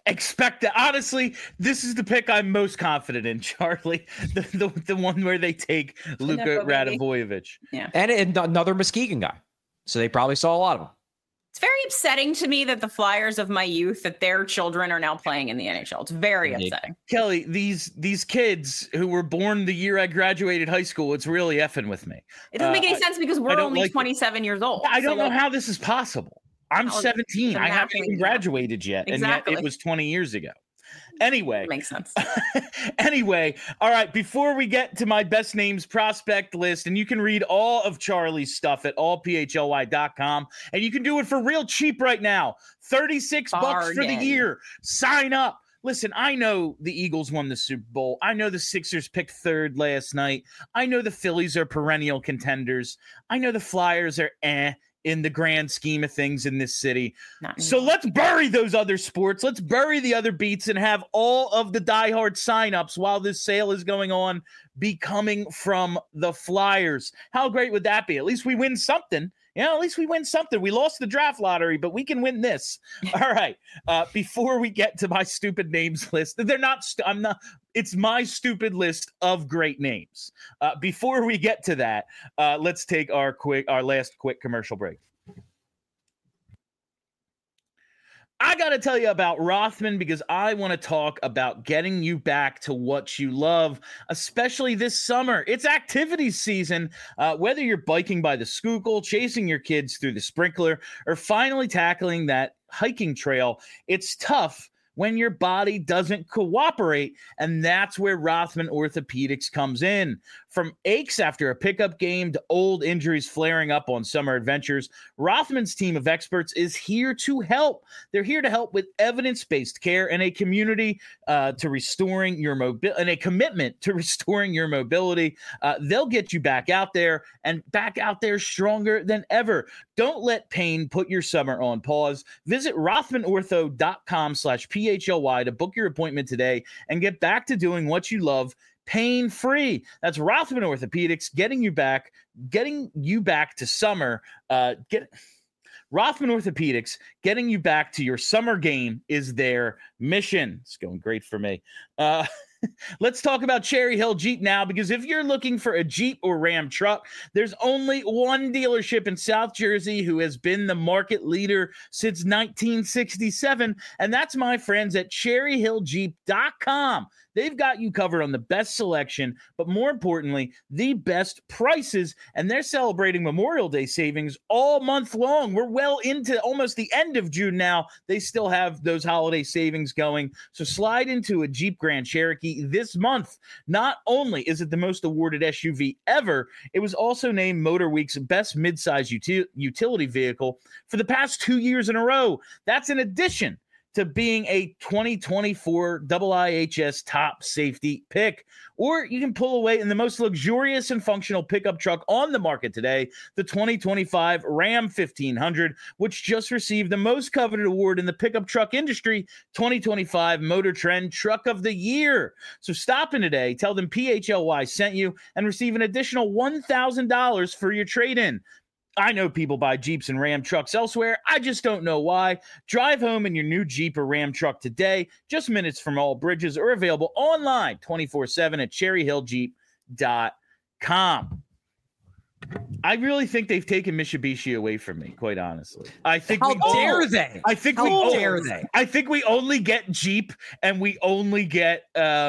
S1: expect that. Honestly, this is the pick I'm most confident in, Charlie. The one where they take Luka Radivojevich.
S2: Yeah.
S3: And another Muskegon guy. So they probably saw a lot of them.
S2: It's very upsetting to me that the Flyers of my youth, that their children are now playing in the NHL. It's very upsetting.
S1: Kelly, these kids who were born the year I graduated high school, it's really effing with me.
S2: It doesn't make any sense because we're only 27 years old.
S1: I don't know how this is possible. I'm 17. I haven't even graduated yet.
S2: Exactly.
S1: And yet it was 20 years ago. Anyway.
S2: Makes sense.
S1: Anyway, all right, before we get to my best names prospect list, and you can read all of Charlie's stuff at allphly.com, and you can do it for real cheap right now. $36 for the year. Sign up. Listen, I know the Eagles won the Super Bowl. I know the Sixers picked third last night. I know the Phillies are perennial contenders. I know the Flyers are in the grand scheme of things in this city. So let's bury those other sports. Let's bury the other beats and have all of the diehard signups while this sale is going on be coming from the Flyers. How great would that be? At least we win something. Yeah, at least we win something. We lost the draft lottery, but we can win this. All right. Before we get to my stupid names list, it's my stupid list of great names. Before we get to that, let's take our last quick commercial break. I got to tell you about Rothman because I want to talk about getting you back to what you love, especially this summer. It's activities season. Whether you're biking by the Schuylkill, chasing your kids through the sprinkler, or finally tackling that hiking trail, it's tough when your body doesn't cooperate, and that's where Rothman Orthopedics comes in. From aches after a pickup game to old injuries flaring up on summer adventures, Rothman's team of experts is here to help. They're here to help with evidence-based care and a community to restoring your mobility, and a commitment to restoring your mobility. They'll get you back out there and back out there stronger than ever. Don't let pain put your summer on pause. Visit rothmanortho.com/PHLY to book your appointment today and get back to doing what you love pain-free. That's Rothman Orthopedics getting you back to summer. Rothman Orthopedics getting you back to your summer game is their mission. It's going great for me. Let's talk about Cherry Hill Jeep now, because if you're looking for a Jeep or Ram truck, there's only one dealership in South Jersey who has been the market leader since 1967, and that's my friends at cherryhilljeep.com. They've got you covered on the best selection, but more importantly, the best prices, and they're celebrating Memorial Day savings all month long. We're well into almost the end of June now. They still have those holiday savings going, so slide into a Jeep Grand Cherokee this month. Not only is it the most awarded SUV ever, it was also named MotorWeek's best midsize utility vehicle for the past 2 years in a row. That's in addition to being a 2024 IIHS top safety pick. Or you can pull away in the most luxurious and functional pickup truck on the market today, the 2025 Ram 1500, which just received the most coveted award in the pickup truck industry, 2025 Motor Trend Truck of the Year. So stop in today, tell them PHLY sent you, and receive an additional $1,000 for your trade-in. I know people buy Jeeps and Ram trucks elsewhere. I just don't know why. Drive home in your new Jeep or Ram truck today, just minutes from all bridges, or available online 24/7 at cherryhilljeep.com. I really think they've taken Mitsubishi away from me, quite honestly. I think
S3: How dare they?
S1: I think we only get Jeep, and we only get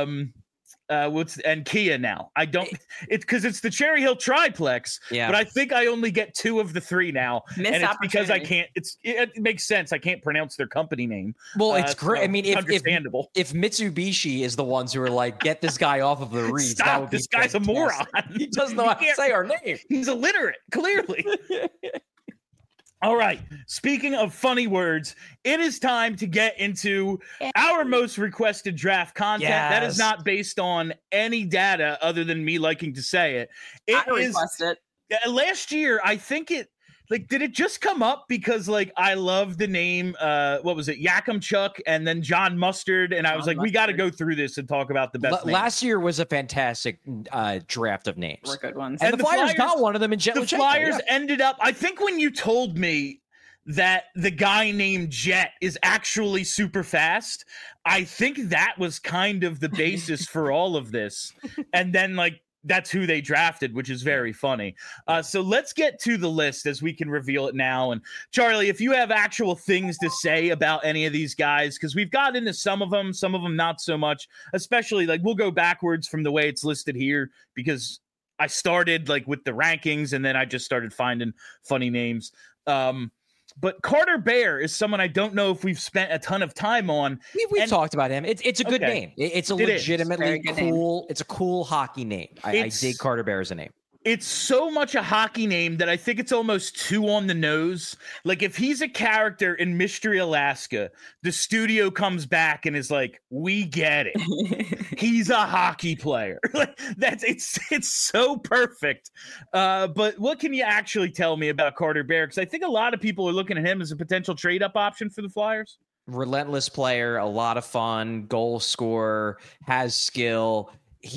S1: and Kia now. I don't. It's because it's the Cherry Hill triplex. Yeah. But I think I only get 2 of the 3 now, and it's because I can't. It makes sense. I can't pronounce their company name.
S3: Well, it's great. So I mean, if
S1: Mitsubishi
S3: is the ones who are like, get this guy off of the reeds.
S1: Stop. This guy's a moron.
S3: He doesn't know how to say our name.
S1: He's illiterate. Clearly. All right. Speaking of funny words, it is time to get into our most requested draft content. Yes. That is not based on any data other than me liking to say it.
S2: I request it.
S1: Last year, I think did it just come up because I love the name, what was it? Yakimchuk and then John Mustard. And I was like, we got to go through this and talk about the best names.
S3: Last year was a fantastic draft of names.
S2: We're good ones.
S3: And the Flyers got one of them in Jet.
S1: The Flyers ended up, I think when you told me that the guy named Jet is actually super fast. I think that was kind of the basis for all of this. And then, like, that's who they drafted, which is very funny. So let's get to the list as we can reveal it now. And Charlie, if you have actual things to say about any of these guys, because we've got into some of them not so much, especially like we'll go backwards from the way it's listed here, because I started like with the rankings and then I just started finding funny names. But Carter Bear is someone I don't know if we've spent a ton of time on.
S3: We've talked about him. It's a good name. It's a legitimately cool. It's a cool hockey name. I dig Carter Bear as a name.
S1: It's so much a hockey name that I think it's almost too on the nose. Like if he's a character in Mystery Alaska, the studio comes back and is like, "We get it. He's a hockey player." Like it's so perfect. But what can you actually tell me about Carter Bear? Because I think a lot of people are looking at him as a potential trade-up option for the Flyers.
S3: Relentless player, a lot of fun, goal scorer, has skill.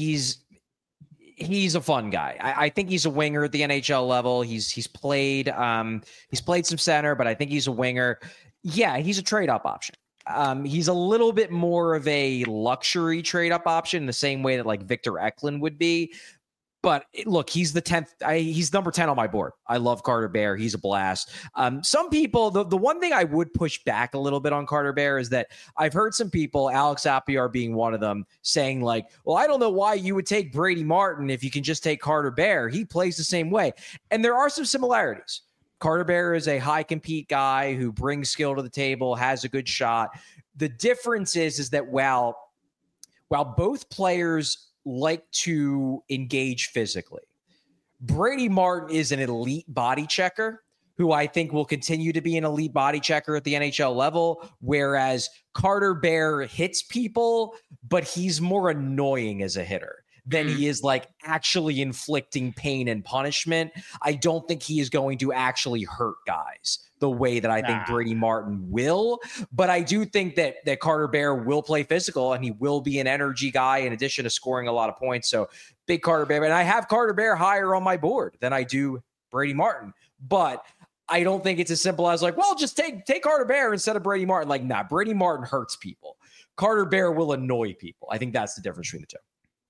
S3: He's a fun guy. I think he's a winger at the NHL level. He's played some center, but I think he's a winger. Yeah, he's a trade-up option. He's a little bit more of a luxury trade-up option in the same way that like Victor Eklund would be. But look, he's the 10th. He's number 10 on my board. I love Carter Bear. He's a blast. Some people, the one thing I would push back a little bit on Carter Bear is that I've heard some people, Alex Apiar being one of them, saying like, well, I don't know why you would take Brady Martin if you can just take Carter Bear. He plays the same way. And there are some similarities. Carter Bear is a high compete guy who brings skill to the table, has a good shot. The difference is that while both players like to engage physically, Brady Martin is an elite body checker who I think will continue to be an elite body checker at the NHL level, whereas Carter Bear hits people, but he's more annoying as a hitter than he is like actually inflicting pain and punishment. I don't think he is going to actually hurt guys the way that I think Brady Martin will. But I do think that Carter Bear will play physical and he will be an energy guy in addition to scoring a lot of points. So big Carter Bear. And I have Carter Bear higher on my board than I do Brady Martin. But I don't think it's as simple as like, well, just take Carter Bear instead of Brady Martin. Like, nah, Brady Martin hurts people. Carter Bear will annoy people. I think that's the difference between the two.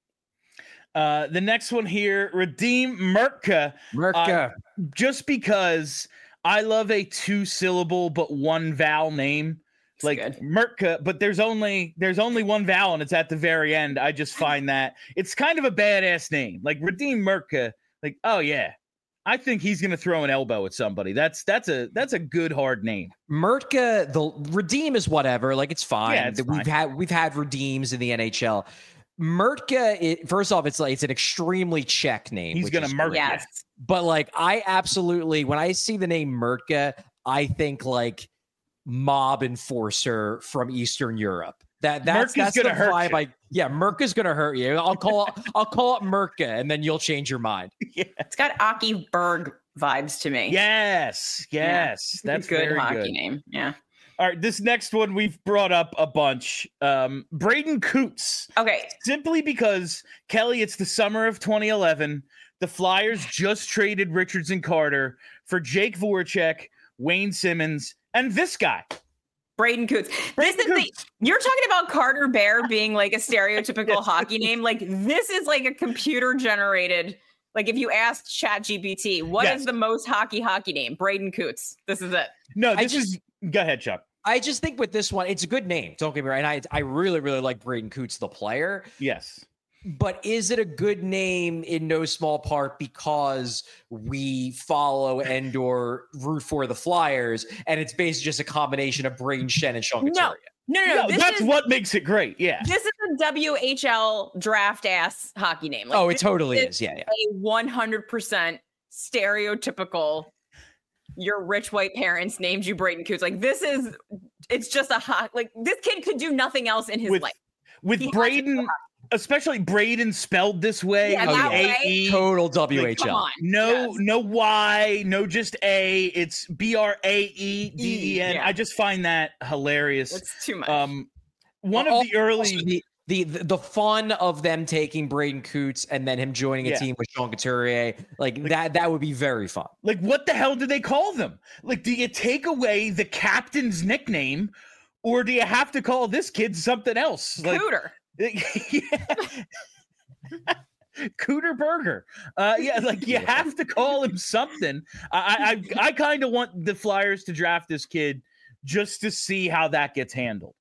S1: The next one here, Radim Mrka. Just because I love a 2-syllable but 1 vowel name. That's like good. Mrka, but there's only one vowel and it's at the very end. I just find that it's kind of a badass name. Like Radim Mrka, like, oh yeah, I think he's gonna throw an elbow at somebody. That's a good hard name.
S3: Mrka, the Redeem is whatever. Like it's fine.
S1: Yeah, it's fine.
S3: We've had Redeems in the NHL. Mrka, first off, it's an extremely Czech name.
S1: He's gonna murk you.
S3: But like, I absolutely, when I see the name Mrka, I think like mob enforcer from Eastern Europe. That's the vibe. Mrka's gonna hurt you. I'll call it Mrka, and then you'll change your mind.
S2: Yeah, it's got Aki Berg vibes to me.
S1: Yes, that's
S2: a good hockey name. Yeah.
S1: All right, this next one we've brought up a bunch. Braden Coots.
S2: Okay.
S1: Simply because, Kelly, it's the summer of 2011. The Flyers just traded Richards and Carter for Jake Voracek, Wayne Simmons, and this guy.
S2: Braden Coots. You're talking about Carter Bear being like a stereotypical hockey name. Like this is like a computer generated. Like if you asked ChatGPT, what is the most hockey name? Braden Coots. This is it.
S1: No, go ahead, Chuck.
S3: I just think with this one, it's a good name. Don't get me wrong. I really, really like Braden Coots, the player.
S1: Yes.
S3: But is it a good name in no small part because we follow and/or root for the Flyers, and it's basically just a combination of Braden Shen and Sean Couturier?
S2: No.
S1: That's what makes it great. Yeah.
S2: This is a WHL draft ass hockey name.
S3: Like, it totally is. Yeah.
S2: A 100% stereotypical. Your rich white parents named you Braden Coots. Like it's just like this kid could do nothing else in his life.
S1: With Braden, especially Braden spelled this way.
S3: A-E. Total WHL.
S2: Like,
S1: no Y, no just A. It's BRAEDEN. I just find that hilarious.
S2: It's too much.
S1: One of the early
S3: the fun of them taking Braden Coots and then him joining a team with Sean Couturier, like that would be very fun.
S1: Like, what the hell do they call them? Like, do you take away the captain's nickname, or do you have to call this kid something else? Like,
S2: Cooter.
S1: Cooter Burger. Like you have to call him something. I kind of want the Flyers to draft this kid just to see how that gets handled.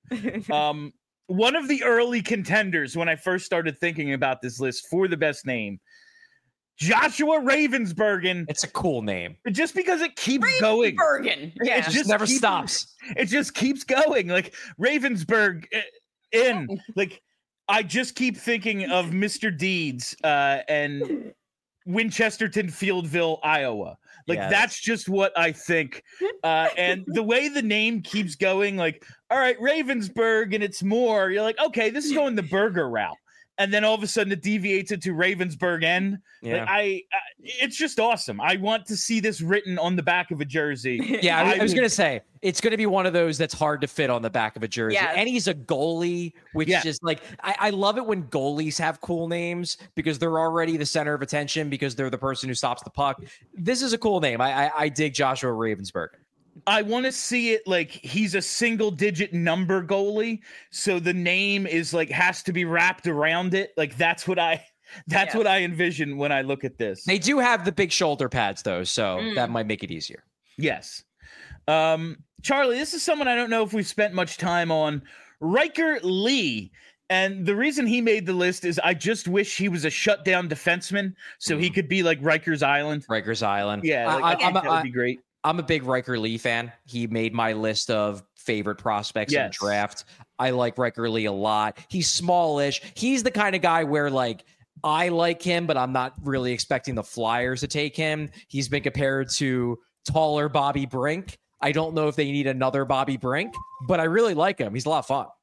S1: One of the early contenders when I first started thinking about this list for the best name, Joshua Ravensbergen.
S3: It's a cool name.
S1: Just because it keeps going.
S2: Ravensbergen. Yeah.
S3: It just never stops.
S1: It just keeps going. Like Ravensburg like I just keep thinking of Mr. Deeds and Winchesterton Fieldville, Iowa. Like that's just what I think. And the way the name keeps going, like, all right, Ravensburg, and it's more, you're like, okay, this is going the burger route. And then all of a sudden it deviates into Ravensburg N.
S3: Yeah.
S1: Like it's just awesome. I want to see this written on the back of a jersey.
S3: Yeah, I was going to say, it's going to be one of those that's hard to fit on the back of a jersey. Yeah. And he's a goalie, which just like, I love it when goalies have cool names because they're already the center of attention because they're the person who stops the puck. This is a cool name. I dig Joshua Ravensberg.
S1: I want to see it like he's a single digit number goalie. So the name is like, has to be wrapped around it. Like that's what I envision when I look at this.
S3: They do have the big shoulder pads though. So that might make it easier.
S1: Yes. Charlie, this is someone I don't know if we've spent much time on. Riker Lee. And the reason he made the list is I just wish he was a shutdown defenseman so he could be like Rikers Island.
S3: Rikers Island.
S1: Yeah, like, that would be great.
S3: I'm a big Riker Lee fan. He made my list of favorite prospects in the draft. I like Riker Lee a lot. He's smallish. He's the kind of guy where like I like him, but I'm not really expecting the Flyers to take him. He's been compared to taller Bobby Brink. I don't know if they need another Bobby Brink, but I really like him. He's a lot of fun.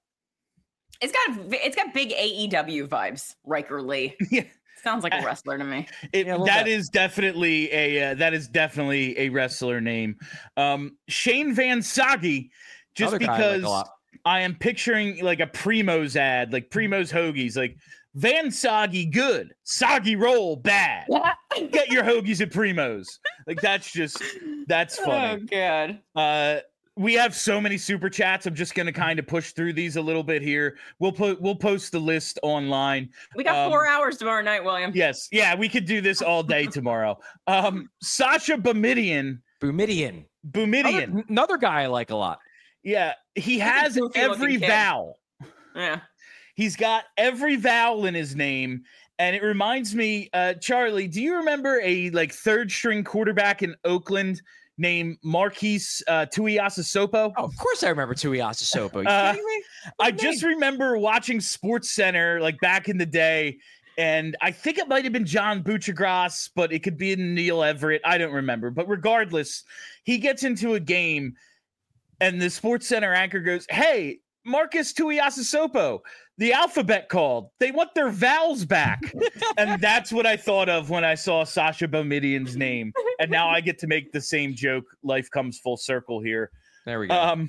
S2: It's got big AEW vibes, Riker Lee. Yeah. Sounds like a wrestler to me.
S1: That is definitely a wrestler name. Shane Van Sage, just because I am picturing like a Primo's ad, like Primo's Hoagies, like Van Sage good, Sage roll bad. Get your hoagies at Primo's. Like that's funny.
S2: Oh God.
S1: We have so many super chats. I'm just going to kind of push through these a little bit here. We'll post the list online.
S2: We got 4 hours tomorrow night, William.
S1: Yes. Yeah, we could do this all day tomorrow. Sasha Boumediene.
S3: Another guy I like a lot.
S1: Yeah, he has every vowel.
S2: Yeah.
S1: He's got every vowel in his name. And it reminds me, Charlie, do you remember a like third string quarterback in Oakland named Marquise Tuiasosopo?
S3: Oh, of course I remember Tuiasosopo.
S1: I just remember watching SportsCenter like back in the day, and I think it might have been John Buchagras, but it could be Neil Everett. I don't remember. But regardless, he gets into a game, and the SportsCenter anchor goes, "Hey, Marcus Tuiasosopo, the alphabet called. They want their vowels back." And that's what I thought of when I saw Sasha Boumediene's name. And now I get to make the same joke. Life comes full circle here.
S3: There we go.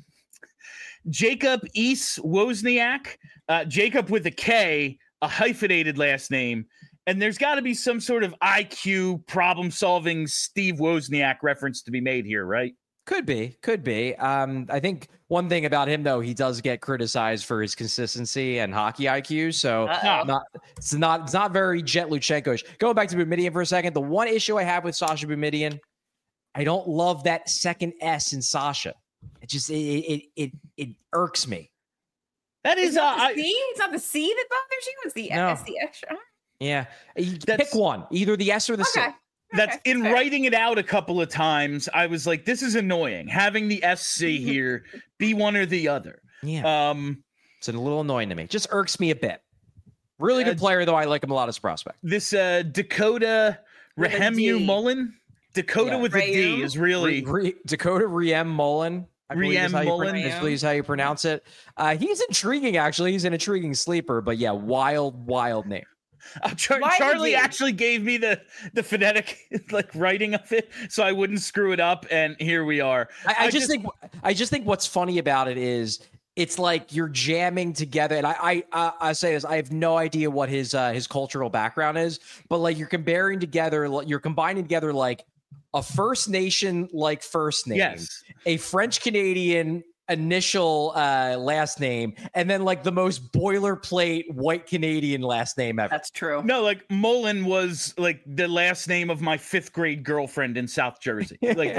S1: Jacob East Wozniak. Jacob with a K, a hyphenated last name. And there's got to be some sort of IQ problem-solving Steve Wozniak reference to be made here, right?
S3: Could be. I think one thing about him, though, he does get criticized for his consistency and hockey IQ. So it's not very Jet Luchenko-ish. Going back to Boumediene for a second, the one issue I have with Sasha Boumediene, I don't love that second S in Sasha. It just it irks me.
S1: That is
S2: it's not the C. It's not the C that bothers you. It's the S, the extra.
S3: Yeah, pick one, either the S or the C.
S1: That's in writing it out a couple of times. I was like, this is annoying. Having the SC here be one or the other.
S3: Yeah. It's a little annoying to me. Just irks me a bit. Really good player, though. I like him a lot as prospect.
S1: This Dakota Rahemu Mullen. Dakota with a D is really
S3: Dakota Riem Mullen.
S1: Riem Mullen
S3: is how you pronounce it. He's intriguing, actually. He's an intriguing sleeper, but yeah, wild name.
S1: Charlie actually gave me the phonetic like writing of it so I wouldn't screw it up, and here we are.
S3: I just think what's funny about it is it's like you're jamming together. And I say this, I have no idea what his cultural background is, but like you're combining together like a First Nation like first name,
S1: yes,
S3: a French Canadian initial last name, and then like the most boilerplate white Canadian last name ever.
S2: That's true.
S1: No, like Mullen was like the last name of my 5th grade girlfriend in South Jersey. Like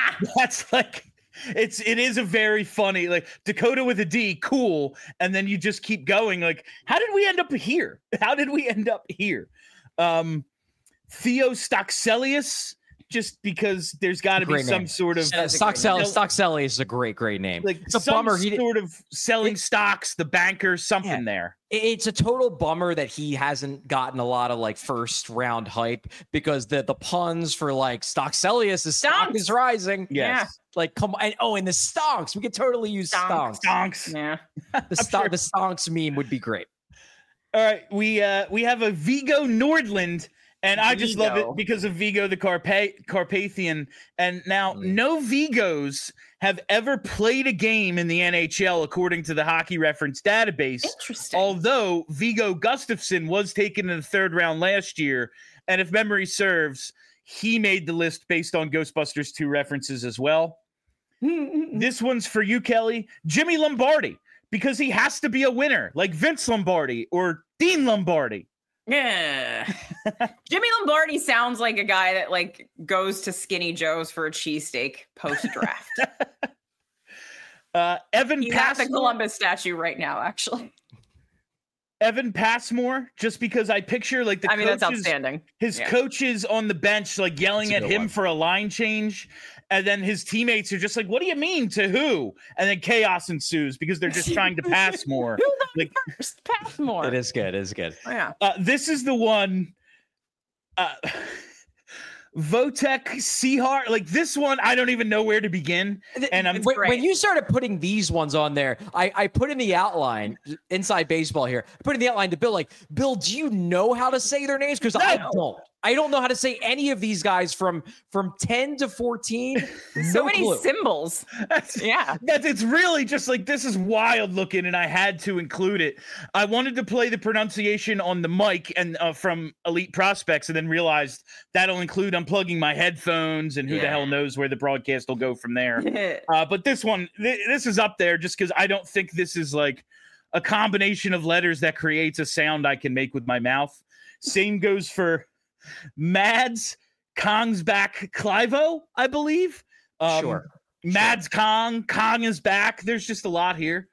S1: it is a very funny, like Dakota with a D, cool. And then you just keep going. Like, how did we end up here? Theo Stockselius, just because there's got to be some sort of
S3: Stockselius is a great name.
S1: Like
S3: it's a
S1: some
S3: bummer.
S1: Sort of selling stocks, the banker, something there.
S3: It's a total bummer that he hasn't gotten a lot of like first round hype, because the puns for like Stockselius, stock is rising.
S1: Yes. Yeah.
S3: Like, come on. And the stonks. We could totally use stonks.
S1: Stonks.
S2: Yeah.
S3: The stonks meme would be great.
S1: All right. We have a Vigo Nordland, and I just love it because of Vigo the Carpathian. And now no Vigos have ever played a game in the NHL, according to the Hockey Reference database.
S2: Interesting.
S1: Although Vigo Gustafsson was taken in the 3rd round last year, and if memory serves, he made the list based on Ghostbusters 2 references as well. This one's for you, Kelly. Jimmy Lombardi, because he has to be a winner, like Vince Lombardi or Dean Lombardi.
S2: Yeah. Jimmy Lombardi sounds like a guy that like goes to Skinny Joe's for a cheesesteak post-draft.
S1: He's
S2: at the Columbus statue right now, actually.
S1: Evan Passmore, just because I picture like coaches,
S2: that's outstanding.
S1: His coaches on the bench like yelling at him for a line change, and then his teammates are just like, "What do you mean to who?" And then chaos ensues because they're just trying to pass more.
S2: Who first? Pass more.
S3: It is good.
S2: Oh, yeah.
S1: This is the one. Votek Seahart, like this one, I don't even know where to begin. And
S3: when you started putting these ones on there, I put in the outline, Inside Baseball here, I put in the outline to Bill, like, Bill, do you know how to say their names? Because I don't. I don't know how to say any of these guys from 10 to 14.
S2: So many symbols.
S1: It's really just like, this is wild looking, and I had to include it. I wanted to play the pronunciation on the mic and from Elite Prospects, and then realized that'll include unplugging my headphones, and who the hell knows where the broadcast will go from there. But this one, this is up there just because I don't think this is like a combination of letters that creates a sound I can make with my mouth. Same goes for Mads Kongsback Clivo, I believe.
S3: Sure.
S1: Mads Kong is back. There's just a lot here.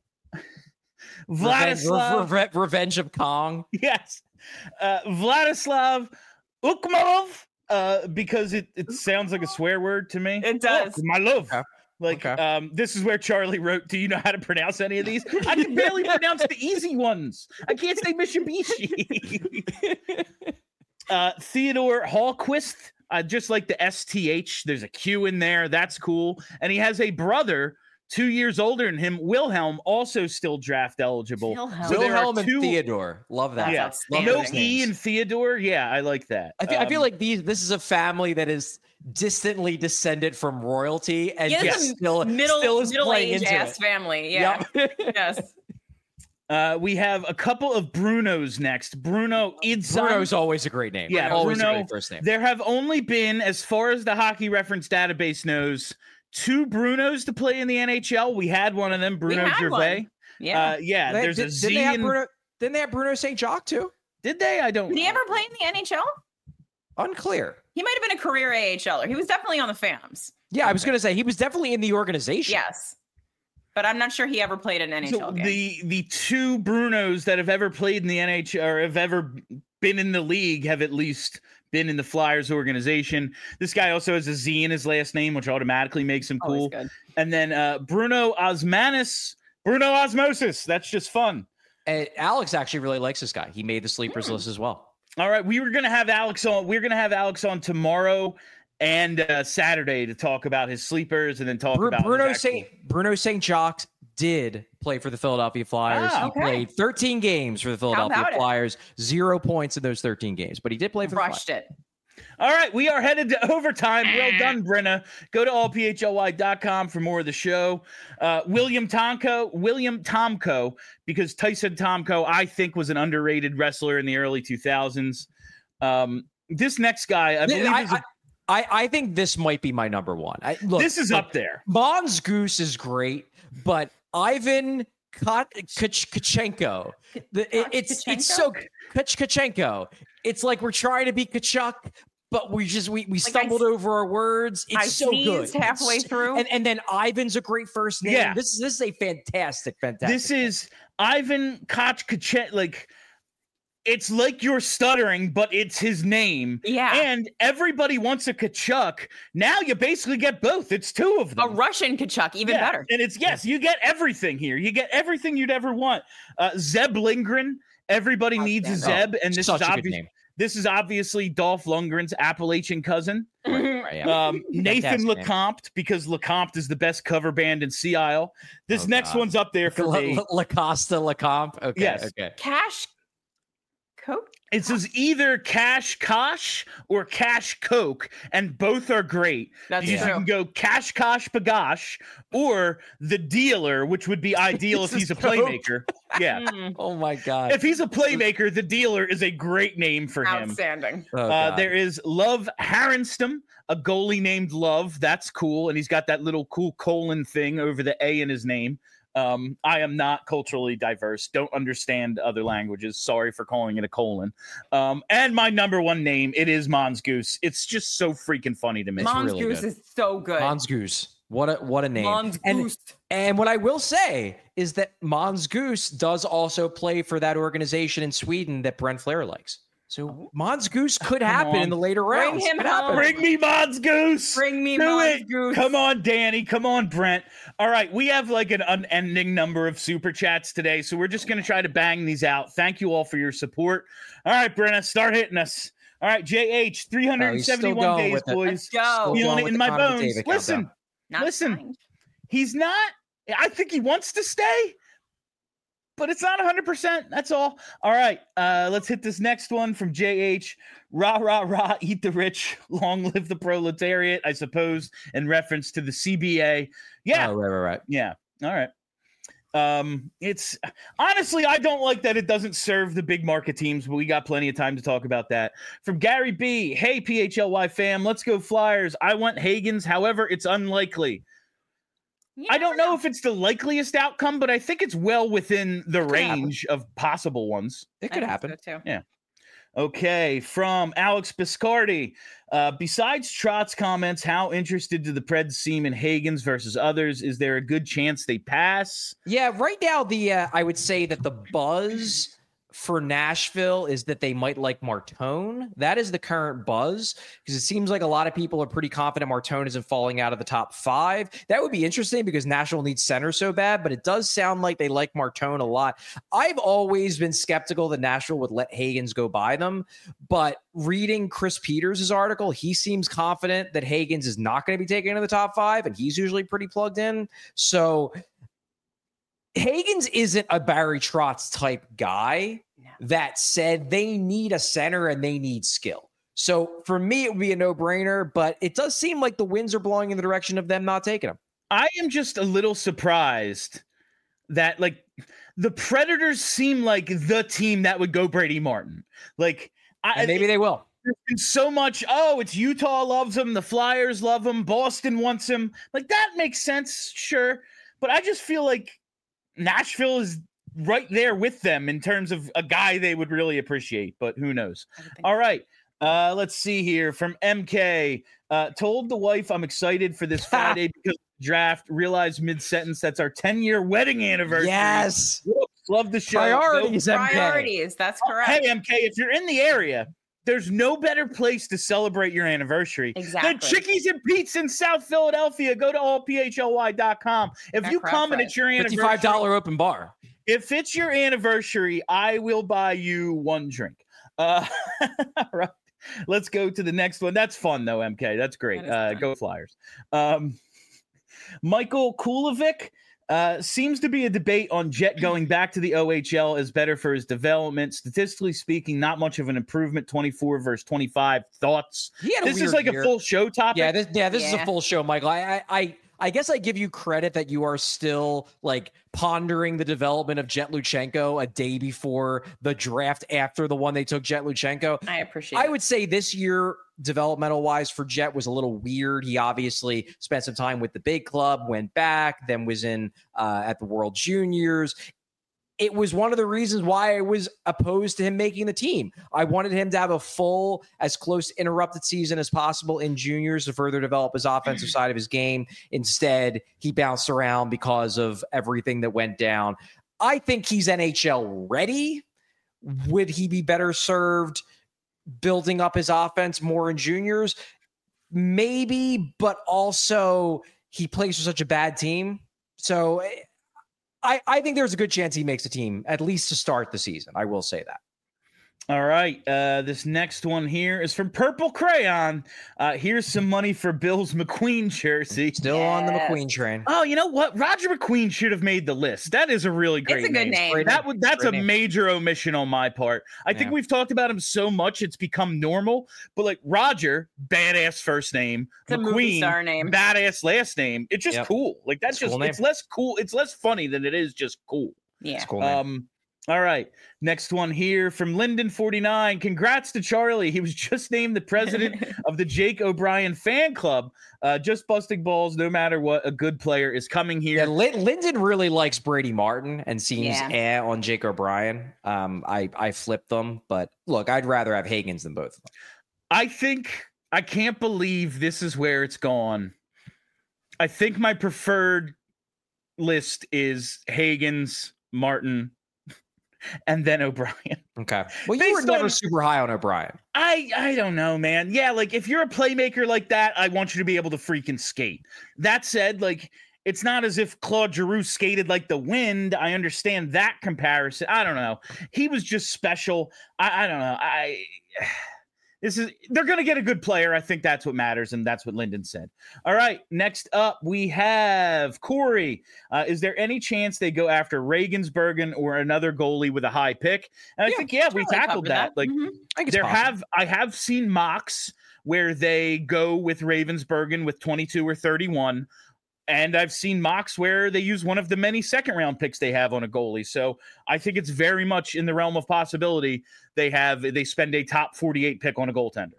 S1: Vladislav.
S3: Revenge of Kong.
S1: Yes. Vladislav Ukmarov, because it sounds like a swear word to me.
S2: It does.
S1: My love. This is where Charlie wrote, do you know how to pronounce any of these? I can barely pronounce the easy ones. I can't say Mitsubishi. Theodore Hallquist, just like the STH, there's a Q in there. That's cool. And he has a brother 2 years older than him, Wilhelm, also still draft eligible.
S3: Wilhelm and Theodore. Love that.
S1: Yeah. No E in Theodore. Yeah, I like that.
S3: I feel like this is a family that is distantly descended from royalty and still is playing into it.
S2: Family. Yeah. Yes.
S1: We have a couple of Brunos next. Bruno Idzon.
S3: Bruno's always a great name.
S1: Yeah,
S3: always
S1: Bruno,
S3: a great first name.
S1: There have only been, as far as the Hockey Reference database knows, 2 Brunos to play in the NHL. We had one of them, Bruno Gervais.
S2: Yeah.
S1: There's a Z.
S3: Didn't they have Bruno St. Jacques too?
S1: Did they? I don't know.
S2: Did he ever play in the NHL?
S3: Unclear.
S2: He might have been a career AHLer. He was definitely on the Phantoms.
S3: Yeah, I was going to say he was definitely in the organization.
S2: Yes. But I'm not sure he ever played an NHL game.
S1: The 2 Brunos that have ever played in the NHL or have ever been in the league have at least been in the Flyers organization. This guy also has a Z in his last name, which automatically makes him cool. And then Bruno Osmosis. That's just fun.
S3: Alex actually really likes this guy. He made the sleepers list as well.
S1: All right, we were going to have Alex on. We're going to have Alex on tomorrow and Saturday to talk about his sleepers and then talk about
S3: Bruno St. Jacques did play for the Philadelphia Flyers. He played 13 games for the Philadelphia Flyers, 0 points in those 13 games, but he did play for the Flyers.
S2: It.
S1: All right, we are headed to overtime. Well done, Brenna. Go to allphly.com for more of the show. William Tomko, because Tyson Tomko, I think, was an underrated wrestler in the early 2000s. This next guy,
S3: I think this might be my number one.
S1: This is up there.
S3: Mongoose is great, but Ivan Kachenko. It's so Kachenko. It's like we're trying to be Kachuk, but we stumbled over our words. It's so good.
S2: Halfway through,
S3: and then Ivan's a great first name. Yeah. This is a fantastic.
S1: This is Ivan Kachenko. Like, it's like you're stuttering, but it's his name.
S2: Yeah.
S1: And everybody wants a Kachuk. Now you basically get both. It's two of them.
S2: A Russian Kachuk, even better.
S1: And it's, you get everything here. You get everything you'd ever want. Zeb Lindgren. Everybody needs a Zeb. And this is obviously Dolph Lundgren's Appalachian cousin. Nathan LeCompte, because LeCompte is the best cover band in Sea Isle. This next one's up there for me.
S3: LaCosta LeCompte. Okay.
S1: Yes.
S3: Okay.
S2: Cash Coke?
S1: It says either Cash Kosh or Cash Coke, and both are great.
S2: That's true.
S1: You can go Cash Kosh Bagosh or the Dealer, which would be ideal if he's a playmaker. Yeah.
S3: Oh my God.
S1: If he's a playmaker, the Dealer is a great name for him.
S2: Outstanding.
S1: There is Love Harrenstam, a goalie named Love. That's cool. And he's got that little cool colon thing over the A in his name. I am not culturally diverse. Don't understand other languages. Sorry for calling it a colon. And my number one name, it is Mongoose. It's just so freaking funny to me.
S2: Mongoose is so good.
S3: Mongoose. What a name.
S2: Mongoose.
S3: And what I will say is that Mongoose does also play for that organization in Sweden that Brent Flair likes. So Mongoose could happen in the later rounds.
S2: Bring him home.
S1: Bring me Mongoose.
S2: Bring me Mongoose.
S1: Come on, Danny. Come on, Brent. All right, we have like an unending number of super chats today, so we're just going to try to bang these out. Thank you all for your support. All right, Brenna, start hitting us. All right, JH, 371 days, boys.
S2: Let's go.
S1: Feeling it in my bones. Listen. He's not. I think he wants to stay, but it's not 100%. That's all. All right. Let's hit this next one from JH. Rah, rah, rah, eat the rich. Long live the proletariat, I suppose, in reference to the CBA. Yeah.
S3: Oh, right.
S1: Yeah. All right. It's honestly, I don't like that it doesn't serve the big market teams, but we got plenty of time to talk about that. From Gary B. Hey, PHLY fam, let's go Flyers. I want Hagens. However, it's unlikely. Yeah, I don't know if it's the likeliest outcome, but I think it's well within the range of possible ones.
S3: It could happen.
S2: So too.
S1: Yeah. Okay. From Alex Biscardi. Besides Trott's comments, how interested do the Preds seem in Hagens versus others? Is there a good chance they pass?
S3: Yeah, right now, I would say that the buzz for Nashville is that they might like Martone. That is the current buzz, because it seems like a lot of people are pretty confident Martone isn't falling out of the top 5. That would be interesting because Nashville needs center so bad, but it does sound like they like Martone a lot. I've always been skeptical that Nashville would let Hagens go by them, but reading Chris Peters' article, he seems confident that Hagens is not going to be taken into the top 5, and he's usually pretty plugged in. So Hagens isn't a Barry Trotz type guy. That said, they need a center and they need skill. So for me, it would be a no-brainer, but it does seem like the winds are blowing in the direction of them not taking him.
S1: I am just a little surprised that, like, the Predators seem like the team that would go Brady Martin. Like,
S3: maybe they will.
S1: There's been so much, it's Utah loves him, the Flyers love him, Boston wants him. Like, that makes sense, sure. But I just feel like Nashville is right there with them in terms of a guy they would really appreciate, but who knows? All right. Let's see here from MK. Told the wife I'm excited for this Friday because of the draft. Realized mid-sentence that's our 10-year wedding anniversary.
S3: Yes.
S1: Whoops, love the show.
S3: Priorities, MK.
S2: Priorities, that's correct.
S1: Hey, MK, if you're in the area, there's no better place to celebrate your anniversary than Chickies and Pete's in South Philadelphia. Go to allphly.com. If you come and it's your anniversary,
S3: $55 open bar.
S1: If it's your anniversary, I will buy you one drink. All right. Let's go to the next one. That's fun, though, MK. That's great. Go Flyers. Michael Kulovic Seems to be a debate on Jet going back to the OHL is better for his development. Statistically speaking, not much of an improvement. 24 versus 25. Thoughts? This is like a full show topic.
S3: Yeah, this is a full show, Michael. I guess I give you credit that you are still like pondering the development of Jet Luchenko a day before the draft after the one they took Jet Luchenko.
S2: I appreciate it.
S3: I would say this year, developmental wise for Jet was a little weird. He obviously spent some time with the big club, went back, then was in at the World Juniors. It was one of the reasons why I was opposed to him making the team. I wanted him to have a full, as close to interrupted season as possible in juniors to further develop his offensive side of his game. Instead, he bounced around because of everything that went down. I think he's NHL ready. Would he be better served building up his offense more in juniors? Maybe, but also he plays for such a bad team. So I think there's a good chance he makes a team, at least to start the season. I will say that.
S1: All right. This next one here is from Purple Crayon. Here's some money for Bill's McQueen jersey.
S3: Still on the McQueen train.
S1: Oh, you know what? Roger McQueen should have made the list. That is a really great
S2: name. It's a good name.
S1: That's a major omission on my part. I think we've talked about him so much it's become normal. But like Roger, badass first name.
S2: It's
S1: McQueen,
S2: a movie star name.
S1: Badass last name. It's just cool. Like that's just cool. It's less cool. It's less funny than it is just cool.
S2: Yeah.
S3: It's cool name.
S1: All right. Next one here from Linden49. Congrats to Charlie. He was just named the president of the Jake O'Brien fan club. Just busting balls no matter what. A good player is coming here.
S3: Yeah, Linden really likes Brady Martin and seems on Jake O'Brien. I flipped them, but look, I'd rather have Hagens than both of them.
S1: I can't believe this is where it's gone. I think my preferred list is Hagens, Martin, and then O'Brien.
S3: Okay. Well, you were never super high on O'Brien.
S1: I don't know, man. Yeah, like if you're a playmaker like that, I want you to be able to freaking skate. That said, like it's not as if Claude Giroux skated like the wind. I understand that comparison. I don't know. He was just special. I don't know. They're going to get a good player. I think that's what matters, and that's what Linden said. All right, next up we have Corey. Is there any chance they go after Regensburg or another goalie with a high pick? And I think we tackled that. Like I have seen mocks where they go with Ravensburgen with 22 or 31. And I've seen mocks where they use one of the many second-round picks they have on a goalie. So I think it's very much in the realm of possibility they spend a top 48 pick on a goaltender.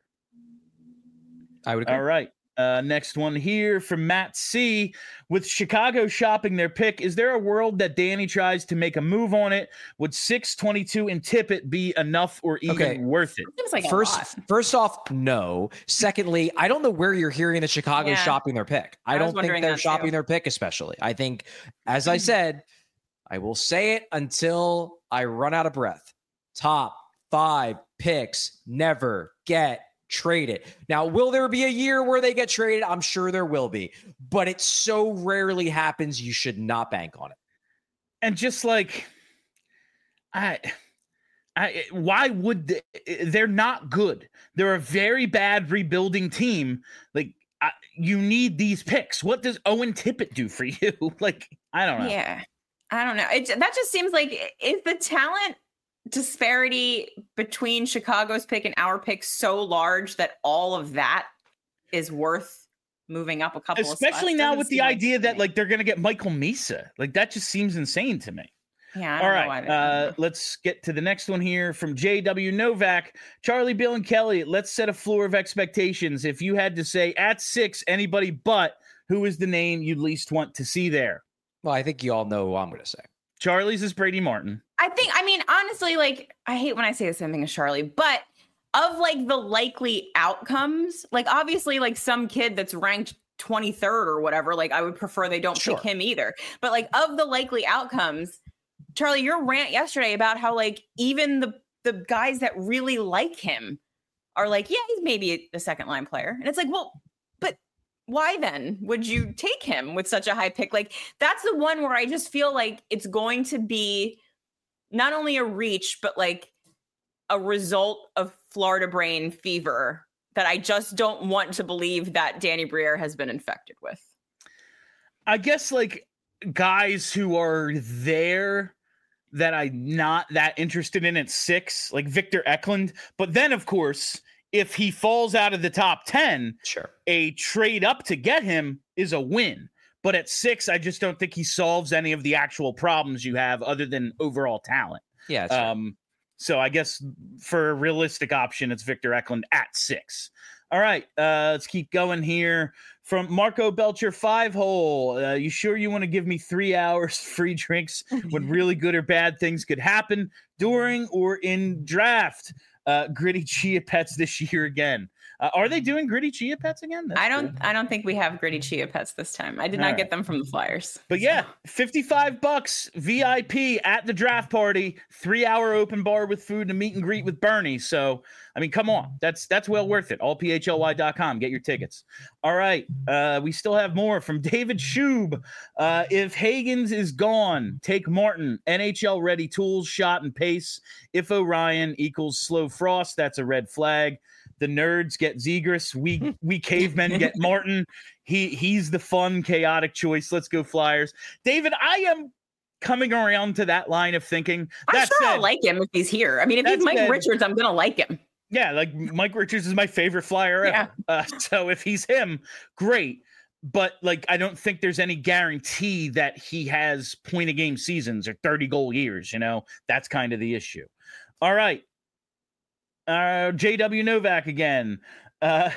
S3: I would agree.
S1: All right. Next one here from Matt C. With Chicago shopping their pick, is there a world that Danny tries to make a move on it? Would 622 and Tippett be enough or even worth it?
S2: Like
S3: first off, no. Secondly, I don't know where you're hearing that Chicago's shopping their pick. I don't think they're shopping their pick, especially. I think, as I said, I will say it until I run out of breath. Top 5 picks never get traded. Now, will there be a year where they get traded? I'm sure there will be, but it so rarely happens. You should not bank on it.
S1: And just like, why would they're not good? They're a very bad rebuilding team. Like, you need these picks. What does Owen Tippett do for you? Like, I don't know.
S2: Yeah, I don't know. That just seems like, is the talent disparity between Chicago's pick and our pick so large that all of that is worth moving up a couple
S1: especially
S2: of spots?
S1: Now with the idea that like they're going to get Michael Misa. Like that just seems insane to me.
S2: Yeah.
S1: All right. Let's get to the next one here from JW Novak. Charlie, Bill, and Kelly, let's set a floor of expectations. If you had to say at 6, anybody but, who is the name you'd least want to see there?
S3: Well, I think you all know who I'm going to say.
S1: Charlie's is Brady Martin.
S2: I mean, honestly, like, I hate when I say the same thing as Charlie, but of like the likely outcomes, like obviously like some kid that's ranked 23rd or whatever, like I would prefer they don't pick him either. But like of the likely outcomes, Charlie, your rant yesterday about how like even the guys that really like him are like, yeah, he's maybe a second line player. And it's like, well, but why then would you take him with such a high pick? Like that's the one where I just feel like it's going to be not only a reach, but like a result of Florida brain fever that I just don't want to believe that Danny Briere has been infected with.
S1: I guess like guys who are there that I'm not that interested in at 6, like Victor Eklund. But then, of course, if he falls out of the top 10,
S3: sure,
S1: a trade up to get him is a win. But at 6, I just don't think he solves any of the actual problems you have other than overall talent.
S3: Yeah.
S1: So I guess for a realistic option, it's Victor Eklund at 6. All right, let's keep going here. From Marco Belcher, 5-hole. You sure you want to give me 3 hours free drinks when really good or bad things could happen during or in draft? Gritty Chia Pets this year again. Are they doing Gritty Chia Pets again?
S2: I don't think we have Gritty Chia Pets this time. I did not get them from the Flyers.
S1: But yeah, $55 VIP at the draft party, 3-hour open bar with food and a meet and greet with Bernie. So, I mean, come on. That's well worth it. allphly.com. Get your tickets. All right. We still have more from David Schub. If Hagens is gone, take Martin. NHL ready tools, shot, and pace. If Orion equals slow frost, that's a red flag. The nerds get Zegras. We cavemen get Martin. He's the fun, chaotic choice. Let's go Flyers. David, I am coming around to that line of thinking.
S2: I'm sure I'll like him if he's here. I mean, if he's Mike Richards, I'm going to like him.
S1: Yeah, like Mike Richards is my favorite Flyer ever. Yeah. So if he's him, great. But like, I don't think there's any guarantee that he has point-a-game seasons or 30-goal years. You know, that's kind of the issue. All right. JW Novak again. The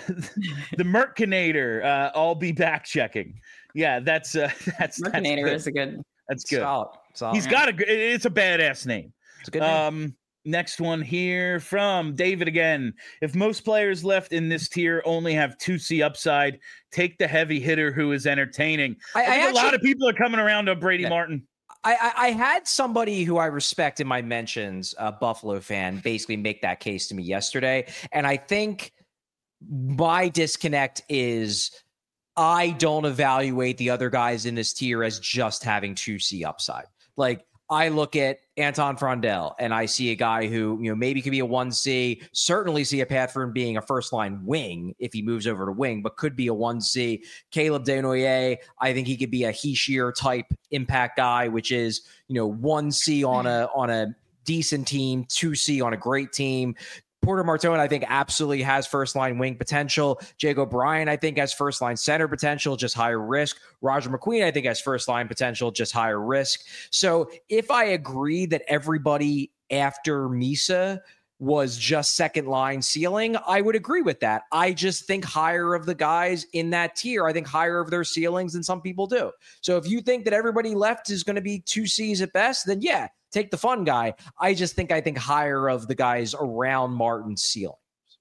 S1: Merkinator. I'll be back checking. Yeah, that's
S2: Merkinator is a good.
S1: That's good.
S3: Solid.
S1: He's got it's a badass name.
S3: It's a good name.
S1: Next one here from David again. If most players left in this tier only have 2C upside, take the heavy hitter who is entertaining. I think a lot of people are coming around on Brady Martin.
S3: I had somebody who I respect in my mentions, a Buffalo fan, basically make that case to me yesterday. And I think my disconnect is I don't evaluate the other guys in this tier as just having 2C upside. Like, I look at Anton Frondell and I see a guy who, maybe could be a 1C, certainly see a path for him being a first-line wing if he moves over to wing, but could be a 1C. Caleb Desnoyers, I think he could be a Heishier type impact guy, which is, 1C on a decent team, 2C on a great team. Porter Martone, I think, absolutely has first-line wing potential. Jake O'Brien, I think, has first-line center potential, just higher risk. Roger McQueen, I think, has first-line potential, just higher risk. So if I agree that everybody after Misa was just second-line ceiling, I would agree with that. I just think higher of the guys in that tier. I think higher of their ceilings than some people do. So if you think that everybody left is going to be 2Cs at best, then yeah, take the fun guy. I think higher of the guys around Martin's ceiling.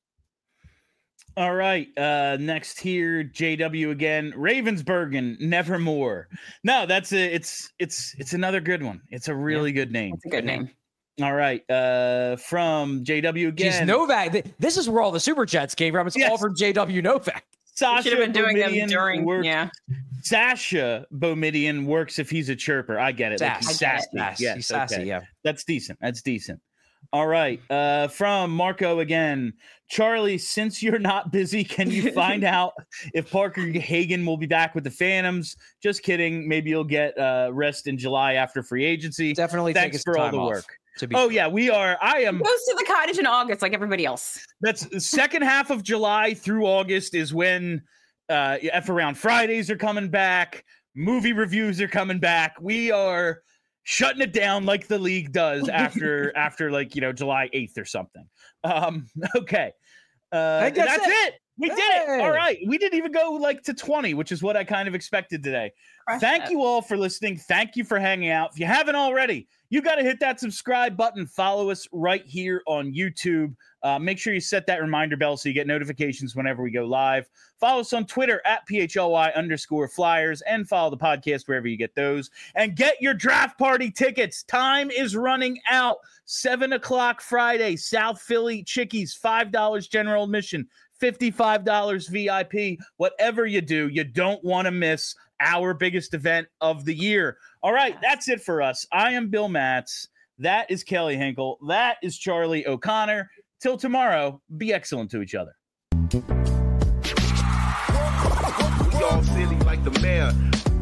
S1: All right. Next here, JW again. Ravensburgen, Nevermore. No, it's another good one. It's a really good name.
S2: It's a good name.
S1: All right. From JW again.
S3: Jeez, Novak. This is where all the super chats came from. It's all from JW Novak.
S1: Sasha
S2: should have been doing them during. Yeah.
S1: Sasha Bomidian works if he's a chirper. I get it. Like he's sassy.
S3: Yes, he's sassy.
S1: Okay.
S3: Yeah.
S1: That's decent. All right. From Marco again. Charlie, since you're not busy, can you find out if Parker Hagen will be back with the Phantoms? Just kidding. Maybe you'll get rest in July after free agency.
S3: Definitely.
S1: Thanks for all the work.
S3: Yeah,
S1: we are. I am.
S2: He goes to the cottage in August like everybody else.
S1: That's the second half of July through August is when F Around Fridays are coming back. Movie reviews are coming back. We are shutting it down like the league does after July 8th or something. Okay. That's it. We did it. All right. We didn't even go to 20, which is what I kind of expected today. Thank you all for listening. Thank you for hanging out. If you haven't already, you got to hit that subscribe button. Follow us right here on YouTube. Make sure you set that reminder bell so you get notifications whenever we go live. Follow us on Twitter at @PHLY_Flyers and follow the podcast wherever you get those. And get your draft party tickets. Time is running out. 7:00 Friday, South Philly Chickies, $5 general admission, $55 VIP. Whatever you do, you don't want to miss our biggest event of the year. All right, that's it for us. I am Bill Matz. That is Kelly Hinkle. That is Charlie O'Connor. Till tomorrow, be excellent to each other.
S4: We all silly like the mayor.